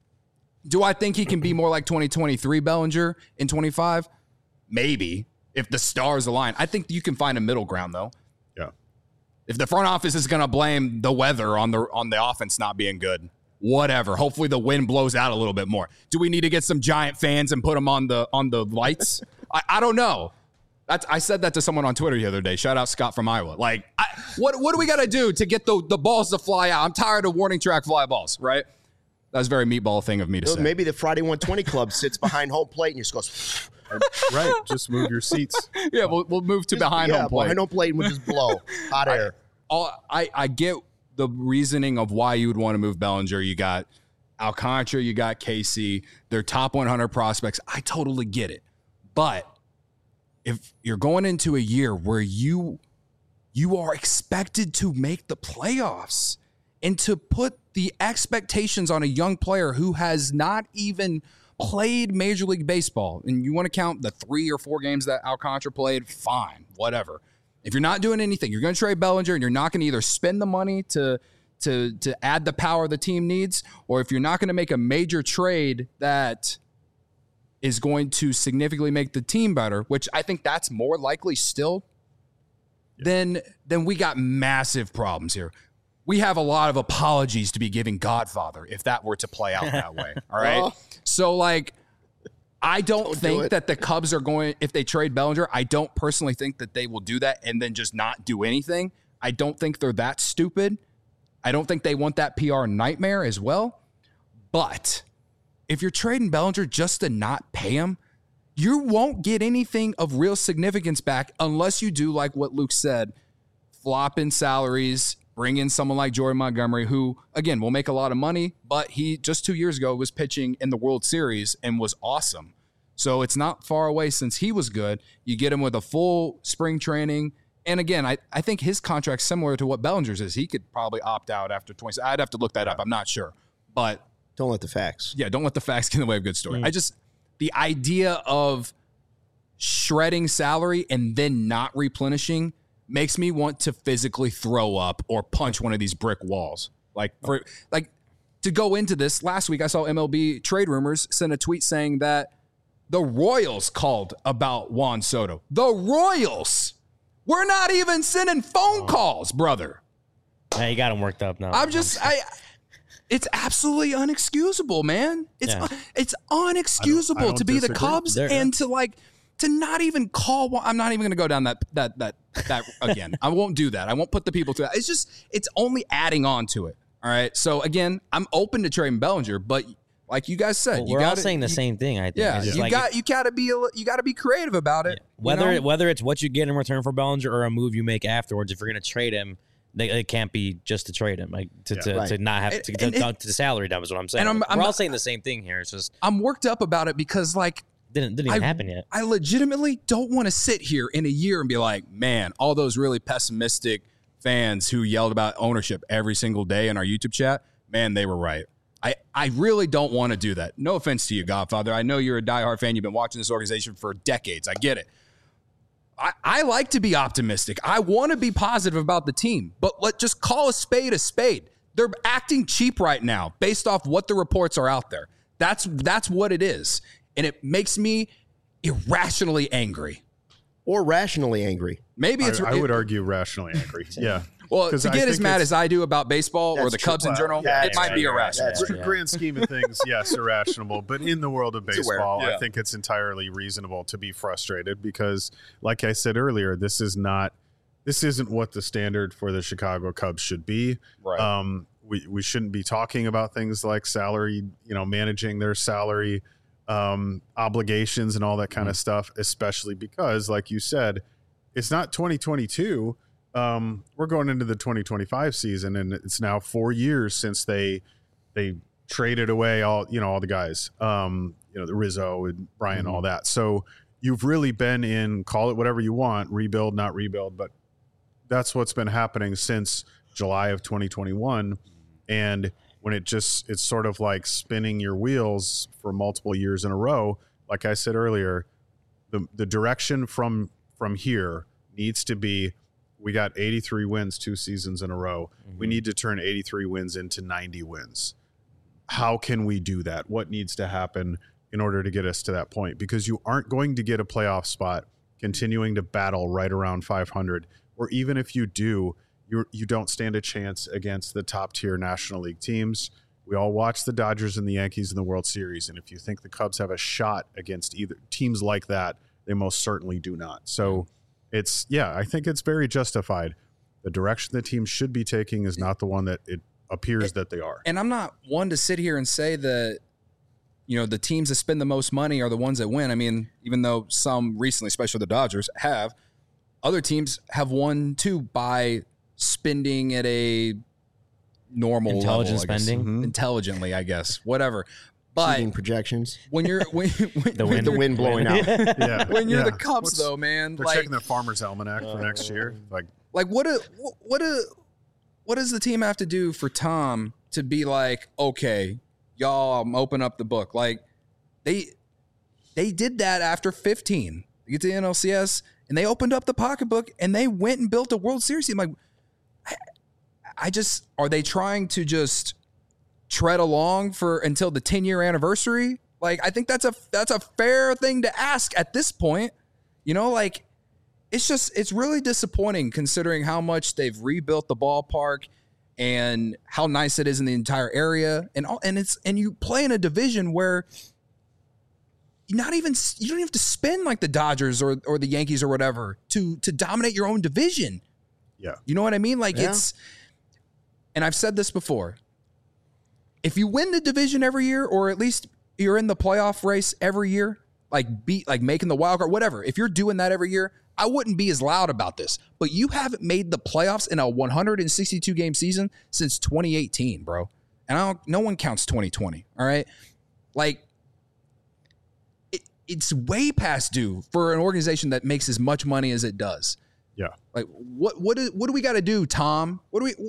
Do I think he can be more like 2023 Bellinger in 25? Maybe, if the stars align. I think you can find a middle ground, though. Yeah. If the front office is going to blame the weather on the offense not being good, whatever. Hopefully the wind blows out a little bit more. Do we need to get some giant fans and put them on the lights? I don't know. I said that to someone on Twitter the other day. Shout out Scott from Iowa. Like, what do we got to do to get the balls to fly out? I'm tired of warning track fly balls, right? That was a very meatball thing of me to say. Maybe the Friday 120 Club sits behind home plate and you just goes. Right. Just move your seats. Yeah, we'll move to behind home plate. Behind home plate and we'll just blow hot air. I get the reasoning of why you would want to move Bellinger. You got Alcantara, you got Casey. They're top 100 prospects. I totally get it. But if you're going into a year where you are expected to make the playoffs and to put the expectations on a young player who has not even played Major League Baseball, and you want to count the 3 or 4 games that Alcantara played, fine, whatever. If you're not doing anything, you're going to trade Bellinger, and you're not going to either spend the money to add the power the team needs, or if you're not going to make a major trade that is going to significantly make the team better, which I think that's more likely still, then we got massive problems here. We have a lot of apologies to be giving Godfather if that were to play out that way. All right. Oh. So, like, I don't think that the Cubs are going, if they trade Bellinger, I don't personally think that they will do that and then just not do anything. I don't think they're that stupid. I don't think they want that PR nightmare as well. But if you're trading Bellinger just to not pay him, you won't get anything of real significance back unless you do like what Luke said, flop in salaries, bring in someone like Jordan Montgomery, who, again, will make a lot of money, but he just 2 years ago was pitching in the World Series and was awesome. So it's not far away since he was good. You get him with a full spring training. And again, I think his contract's similar to what Bellinger's is. He could probably opt out after 20. I'd have to look that up. I'm not sure. But don't let the facts. Yeah, don't let the facts get in the way of a good story. The idea of shredding salary and then not replenishing makes me want to physically throw up or punch one of these brick walls. To go into this, last week I saw MLB Trade Rumors send a tweet saying that the Royals called about Juan Soto. The Royals! We're not even sending phone calls, brother. Yeah, you got him worked up now. It's absolutely unexcusable, man. It's unexcusable to be the Cubs and to not even call. I'm not even going to go down that again. I won't do that. I won't put the people to that. It's only adding on to it. All right. So again, I'm open to trading Bellinger, but like you guys said, we're all saying the same thing. I think. Yeah. You gotta be creative about it. Yeah. Whether it's what you get in return for Bellinger or a move you make afterwards, if you're going to trade him, it can't be just to trade him, like to not have to salary dump is what I'm saying. And we're all saying the same thing here. It's just I'm worked up about it because didn't even happen yet. I legitimately don't want to sit here in a year and be like, man, all those really pessimistic fans who yelled about ownership every single day in our YouTube chat, man, they were right. I really don't want to do that. No offense to you, Godfather. I know you're a diehard fan. You've been watching this organization for decades. I get it. I like to be optimistic. I want to be positive about the team, but let's just call a spade a spade. They're acting cheap right now based off what the reports are out there. That's what it is. And it makes me irrationally angry. Or rationally angry. Maybe I would argue rationally angry. Yeah. Well, to get as mad as I do about baseball or the Cubs in general, it might be irrational. In the grand scheme of things, yes, irrational. But in the world of baseball, I think it's entirely reasonable to be frustrated because, like I said earlier, this isn't what the standard for the Chicago Cubs should be. Right. we shouldn't be talking about things like salary, managing their salary obligations and all that kind of stuff, especially because, like you said, it's not 2022. We're going into the 2025 season, and it's now 4 years since they traded away all the guys, the Rizzo and Brian, all that. So you've really been in, call it whatever you want, rebuild, not rebuild, but that's what's been happening since July of 2021. And when it's sort of like spinning your wheels for multiple years in a row, like I said earlier, the direction from here needs to be, we got 83 wins 2 seasons in a row. We need to turn 83 wins into 90 wins. How can we do that? What needs to happen in order to get us to that point? Because you aren't going to get a playoff spot continuing to battle right around 500, or even if you do, you don't stand a chance against the top tier National League teams. We all watch the Dodgers and the Yankees in the World Series, and if you think the Cubs have a shot against either teams like that, they most certainly do not. So I think it's very justified. The direction the team should be taking is not the one that it appears that they are. And I'm not one to sit here and say that, the teams that spend the most money are the ones that win. I mean, even though some recently, especially the Dodgers, have, other teams have won too by spending at a normal intelligent level, spending, intelligently, I guess, whatever. But Seating projections. When you're The wind blowing out. when you're the Cubs, though, man, they're checking their Farmer's Almanac for next year. Like what does the team have to do for Tom to be like, okay, y'all, I'm open up the book? Like they did that after 15. They get to the NLCS and they opened up the pocketbook and they went and built a World Series team. Like, are they trying to just tread along until the 10-year anniversary? Like, I think that's a fair thing to ask at this point. It's really disappointing considering how much they've rebuilt the ballpark and how nice it is in the entire area. And you play in a division where you don't even have to spend like the Dodgers or the Yankees or whatever to dominate your own division. Yeah. You know what I mean? Like and I've said this before. If you win the division every year, or at least you're in the playoff race every year, like making the wild card, whatever. If you're doing that every year, I wouldn't be as loud about this. But you haven't made the playoffs in a 162 game season since 2018, bro. And no one counts 2020. All right, like it's way past due for an organization that makes as much money as it does. Yeah. Like what do we got to do, Tom?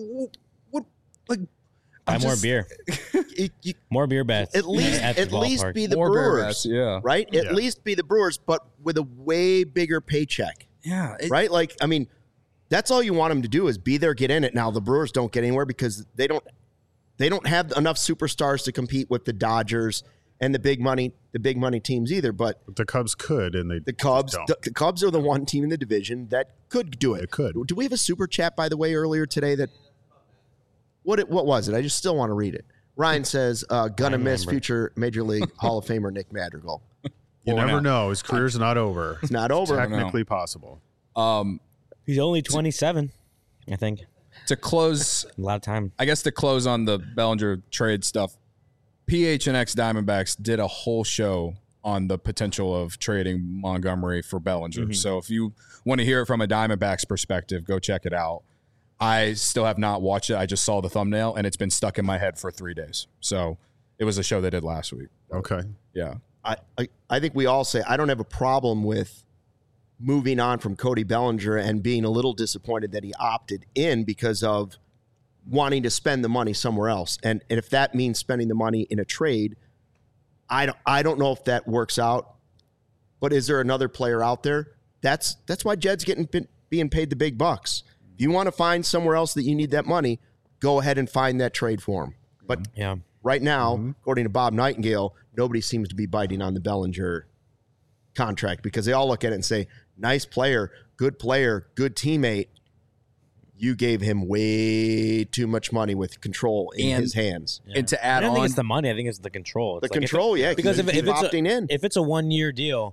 Buy more beer. More beer bets. At least be the More beer Brewers. bets, yeah. Right? At least be the Brewers, but with a way bigger paycheck. Yeah. Right? Like, I mean, that's all you want them to do is be there, get in it. Now the Brewers don't get anywhere because they don't have enough superstars to compete with the Dodgers and the big money teams either. But the Cubs could, and the Cubs are the one team in the division that could do it. It could. Do we have a super chat, by the way, earlier today that what was it? I just still want to read it. Ryan says, gonna miss future Major League Hall of Famer Nick Madrigal. You never know. His career's not over. It's not over. Technically possible. He's only 27, I think. To close, A lot of time. I guess to close on the Bellinger trade stuff, PHNX Diamondbacks did a whole show on the potential of trading Montgomery for Bellinger. Mm-hmm. So if you want to hear it from a Diamondbacks perspective, go check it out. I still have not watched it. I just saw the thumbnail, and it's been stuck in my head for 3 days. So it was a show they did last week. Okay. Yeah. I think we all say I don't have a problem with moving on from Cody Bellinger and being a little disappointed that he opted in because of wanting to spend the money somewhere else. And if that means spending the money in a trade, I don't know if that works out. But is there another player out there? That's why Jed's being paid the big bucks. If you want to find somewhere else that you need that money, go ahead and find that trade for him. But right now, according to Bob Nightingale, nobody seems to be biting on the Bellinger contract because they all look at it and say, nice player, good teammate. You gave him way too much money with control in his hands. And to add I don't on, think it's the money. I think it's the control. It's the control, because if it's opting in. if it's a 1 year deal,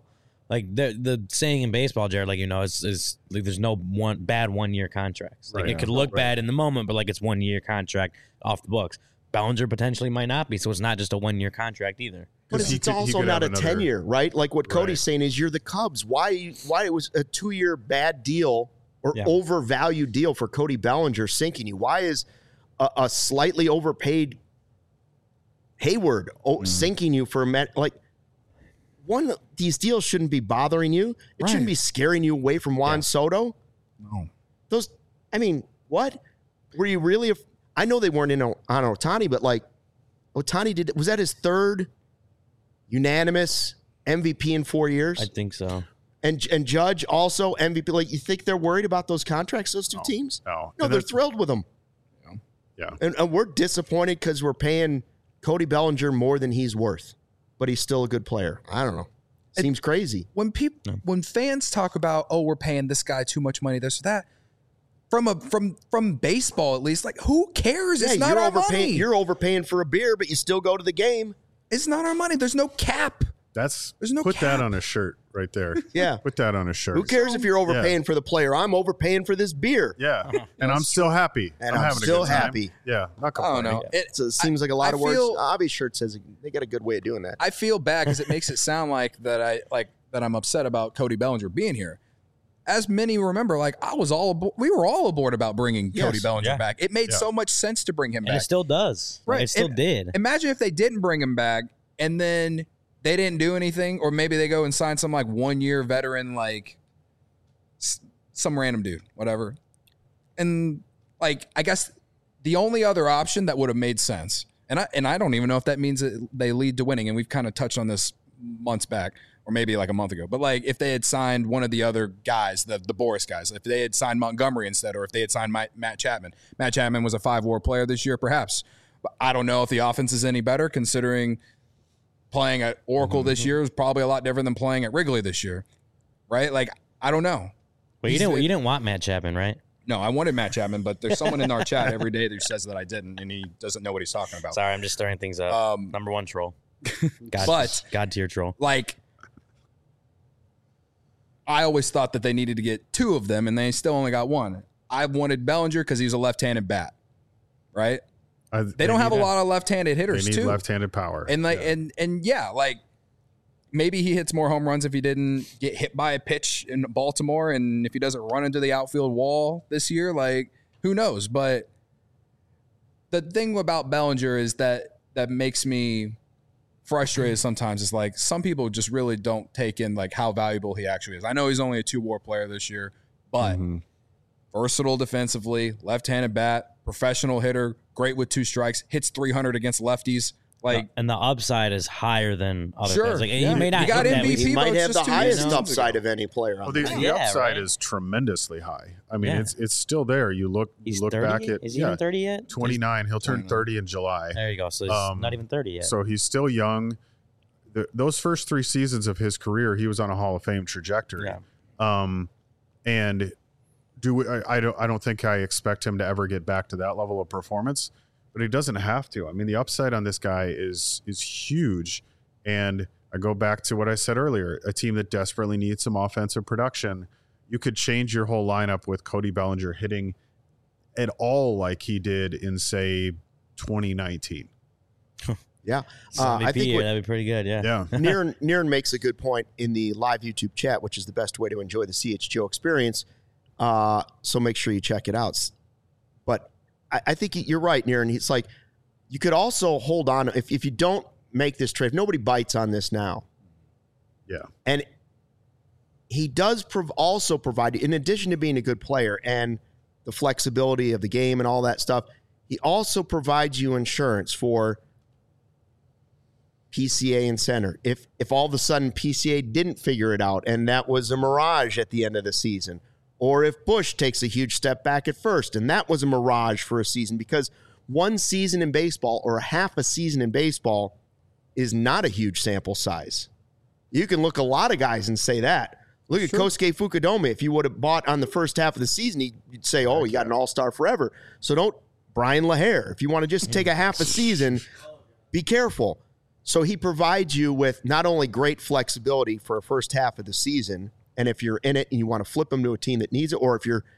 Like the saying in baseball, Jared, like, is like there's no bad 1 year contracts. Like it could look bad in the moment, but like it's 1 year contract off the books. Bellinger potentially might not be, so it's not just a 1 year contract either. But it's also not a 10-year, right? Like what Cody's saying is you're the Cubs. Why it was a 2-year bad deal or overvalued deal for Cody Bellinger sinking you? Why is a slightly overpaid Hayward sinking you for these deals shouldn't be bothering you. It shouldn't be scaring you away from Juan Soto. No. What? Were you really I know they weren't in on Ohtani, but like Ohtani was that his third unanimous MVP in 4 years? I think so. And Judge also MVP. Like, you think they're worried about those contracts, those two teams? No, they're thrilled with them. Yeah. And we're disappointed because we're paying Cody Bellinger more than he's worth, but he's still a good player. I don't know. Seems crazy. When fans talk about, oh, we're paying this guy too much money, this or that, from baseball at least, like, who cares? It's not our money. You're overpaying for a beer, but you still go to the game. It's not our money. There's no cap. Put that on a shirt right there. Yeah. Put that on a shirt. Who cares if you're overpaying for the player? I'm overpaying for this beer. Yeah. And I'm still happy. And I'm having still a good time. happy. Yeah. Not complaining. I don't know. It seems like a lot of words. Avi's shirt says they got a good way of doing that. I feel bad because it makes it sound like that I'm upset about Cody Bellinger being here. As many remember, like we were all aboard about bringing Cody Bellinger back. It made so much sense to bring him back. And it still does. Right. It still did. Imagine if they didn't bring him back and then they didn't do anything, or maybe they go and sign some like 1 year veteran, like some random dude, whatever. And like, I guess the only other option that would have made sense, and I don't even know if that means that they lead to winning. And we've kind of touched on this months back, or maybe like a month ago. But like, if they had signed one of the other guys, the Boris guys, if they had signed Montgomery instead, or if they had signed Matt Chapman. Matt Chapman was a 5-WAR player this year, perhaps. But I don't know if the offense is any better, considering playing at Oracle this year is probably a lot different than playing at Wrigley this year, right? Like, I don't know. Well, you didn't want Matt Chapman, right? No, I wanted Matt Chapman, but there's someone in our chat every day that says that I didn't, and he doesn't know what he's talking about. Sorry, I'm just stirring things up. Number one troll. God tier troll. Like, I always thought that they needed to get 2 of them, and they still only got 1. I wanted Bellinger because he's a left-handed bat, right? They don't have a lot of left-handed hitters, They need too. left-handed power. And like, like maybe he hits more home runs if he didn't get hit by a pitch in Baltimore, and if he doesn't run into the outfield wall this year, like, who knows? But the thing about Bellinger is that makes me frustrated sometimes. Is like, some people just really don't take in like how valuable he actually is. I know he's only a 2-WAR player this year, but versatile defensively, left-handed bat, professional hitter, great with 2 strikes, hits 300 against lefties. Like, and the upside is higher than other Sure, guys. Like, yeah. he may not He got hit that. MVP, He might but have it's the just 2 highest seasons upside ago. of any player on The the upside right. is tremendously high. I mean, Yeah. it's still there. You look He's look 30? back at Is he even 30 yet? 29. He'll turn 30 in July. There you go. So he's not even 30 yet. So he's still young. Those first 3 seasons of his career, he was on a Hall of Fame trajectory. Yeah. And I don't think I expect him to ever get back to that level of performance, but he doesn't have to. I mean, the upside on this guy is huge. And I go back to what I said earlier, a team that desperately needs some offensive production. You could change your whole lineup with Cody Bellinger hitting at all like he did in, say, 2019. Yeah. I think what- that'd be pretty good. Yeah. Yeah. Niren makes a good point in the live YouTube chat, which is the best way to enjoy the CHGO experience. So make sure you check it out. But I think you're right, Niren. It's like, you could also hold on if you don't make this trade. If nobody bites on this now. Yeah. And he does also provide, in addition to being a good player and the flexibility of the game and all that stuff, he also provides you insurance for PCA and center. If all of a sudden PCA didn't figure it out and that was a mirage at the end of the season, or if Bush takes a huge step back at first and that was a mirage for a season, because one season in baseball or half a season in baseball is not a huge sample size. You can look a lot of guys and say that. Look at Kosuke Fukudome. If you would have bought on the first half of the season, you'd say, oh, you got an all-star forever. So don't, Brian LaHare, if you want to just take a half a season, be careful. So he provides you with not only great flexibility for a first half of the season, and if you're in it and you want to flip him to a team that needs it, or if you're,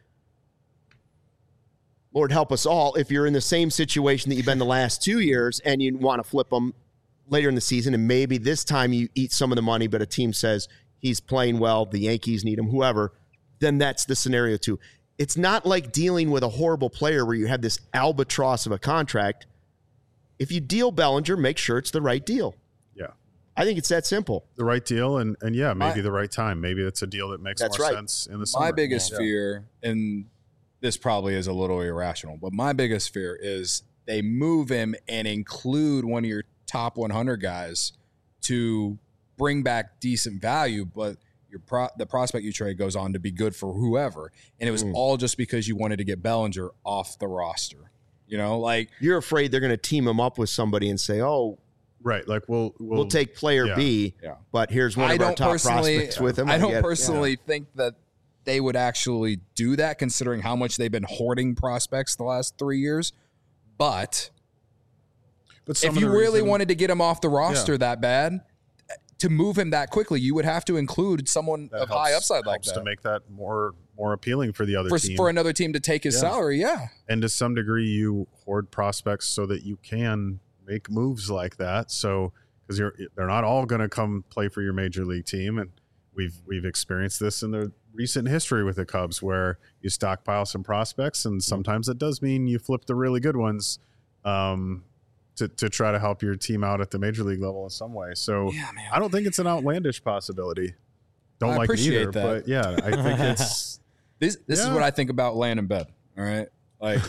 Lord help us all, if you're in the same situation that you've been the last 2 years and you want to flip him later in the season, and maybe this time you eat some of the money, but a team says he's playing well, the Yankees need him, whoever, then that's the scenario too. It's not like dealing with a horrible player where you have this albatross of a contract. If you deal Bellinger, make sure it's the right deal. Yeah. I think it's that simple. The right deal and yeah, maybe the right time. Maybe it's a deal that makes more sense in the summer. My biggest fear, and this probably is a little irrational, but my biggest fear is they move him and include one of your top 100 guys to bring back decent value, but the prospect you trade goes on to be good for whoever. And it was all just because you wanted to get Bellinger off the roster. You know, like you're afraid they're going to team him up with somebody and say, "Oh, right, like we'll take player B, but here's one of our top prospects with him." I don't personally think that they would actually do that, considering how much they've been hoarding prospects the last 3 years. But if you really wanted to get him off the roster that bad, to move him that quickly, you would have to include someone of high upside like that to make that more appealing for the other team. For another team to take his salary, And to some degree, you hoard prospects so that you can make moves like that. So because they're not all going to come play for your major league team, and we've experienced this in the recent history with the Cubs, where you stockpile some prospects, and sometimes it does mean you flip the really good ones to try to help your team out at the major league level in some way. So I don't think it's an outlandish possibility. Don't like it either, but yeah, I think it's this is what I think about laying in bed. All right, like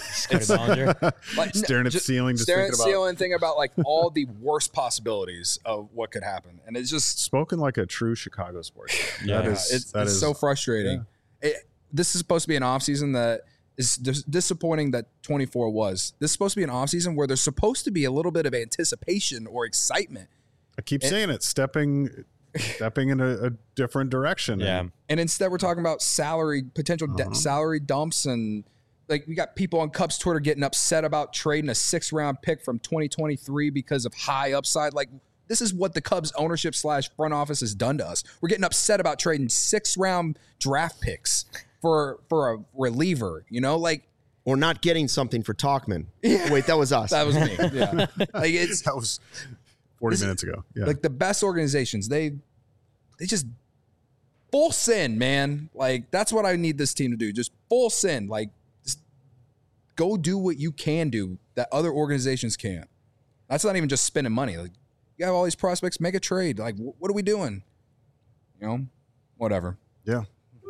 staring at the ceiling, just staring at the ceiling, thinking about like all the worst possibilities of what could happen, and it's just spoken like a true Chicago sports fan. It's so frustrating. This is supposed to be an offseason that is disappointing that 24 was. This is supposed to be an offseason where there's supposed to be a little bit of anticipation or excitement. I keep saying it, stepping in a different direction. Yeah. And instead we're talking about potential salary dumps, and like we got people on Cubs Twitter getting upset about trading a 6th-round pick from 2023 because of high upside. Like, this is what the Cubs ownership / front office has done to us. We're getting upset about trading 6th-round draft picks for a reliever, you know, like, or not getting something for Tauchman. Yeah. Wait, that was us. That was me. Yeah, like that was 40 minutes ago. Yeah, like the best organizations, they just full send, man. Like that's what I need this team to do. Just full send. Like, just go do what you can do that other organizations can't. That's not even just spending money. Like, you have all these prospects, make a trade. Like, what are we doing? You know, whatever. Yeah.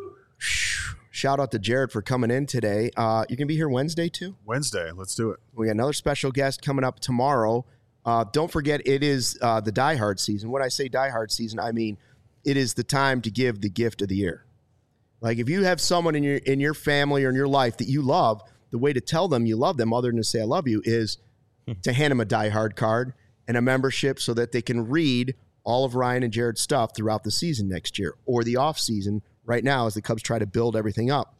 Shout out to Jared for coming in today. You can be here Wednesday too? Wednesday. Let's do it. We got another special guest coming up tomorrow. Don't forget, it is the Die Hard season. When I say Die Hard season, I mean it is the time to give the gift of the year. Like, if you have someone in your family or in your life that you love, the way to tell them you love them, other than to say I love you, is to hand them a Die Hard card and a membership so that they can read all of Ryan and Jared's stuff throughout the season next year, or the off season right now as the Cubs try to build everything up.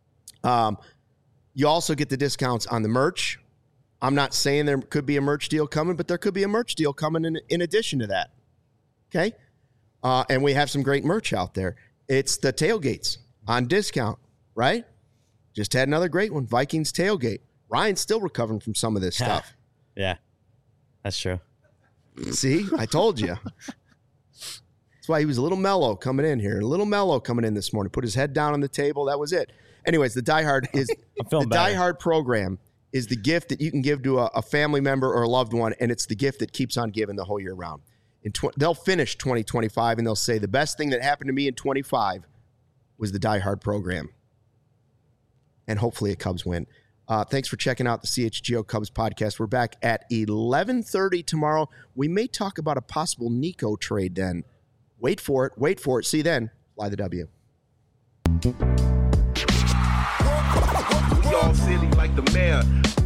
You also get the discounts on the merch. I'm not saying there could be a merch deal coming, but there could be a merch deal coming in addition to that. Okay? And we have some great merch out there. It's the tailgates on discount, right? Just had another great one, Vikings tailgate. Ryan's still recovering from some of this stuff. Yeah, that's true. See, I told you. That's why he was a little mellow coming in here. A little mellow coming in this morning. Put his head down on the table. That was it. Anyways, the Die Hard is the Die Hard program is the gift that you can give to a family member or a loved one, and it's the gift that keeps on giving the whole year round. They'll finish 2025, and they'll say the best thing that happened to me in 25 was the Die Hard program. And hopefully a Cubs win. Thanks for checking out the CHGO Cubs podcast. We're back at 11:30 tomorrow. We may talk about a possible Nico trade then. Wait for it. See you then. Fly the W. We all silly like the mayor.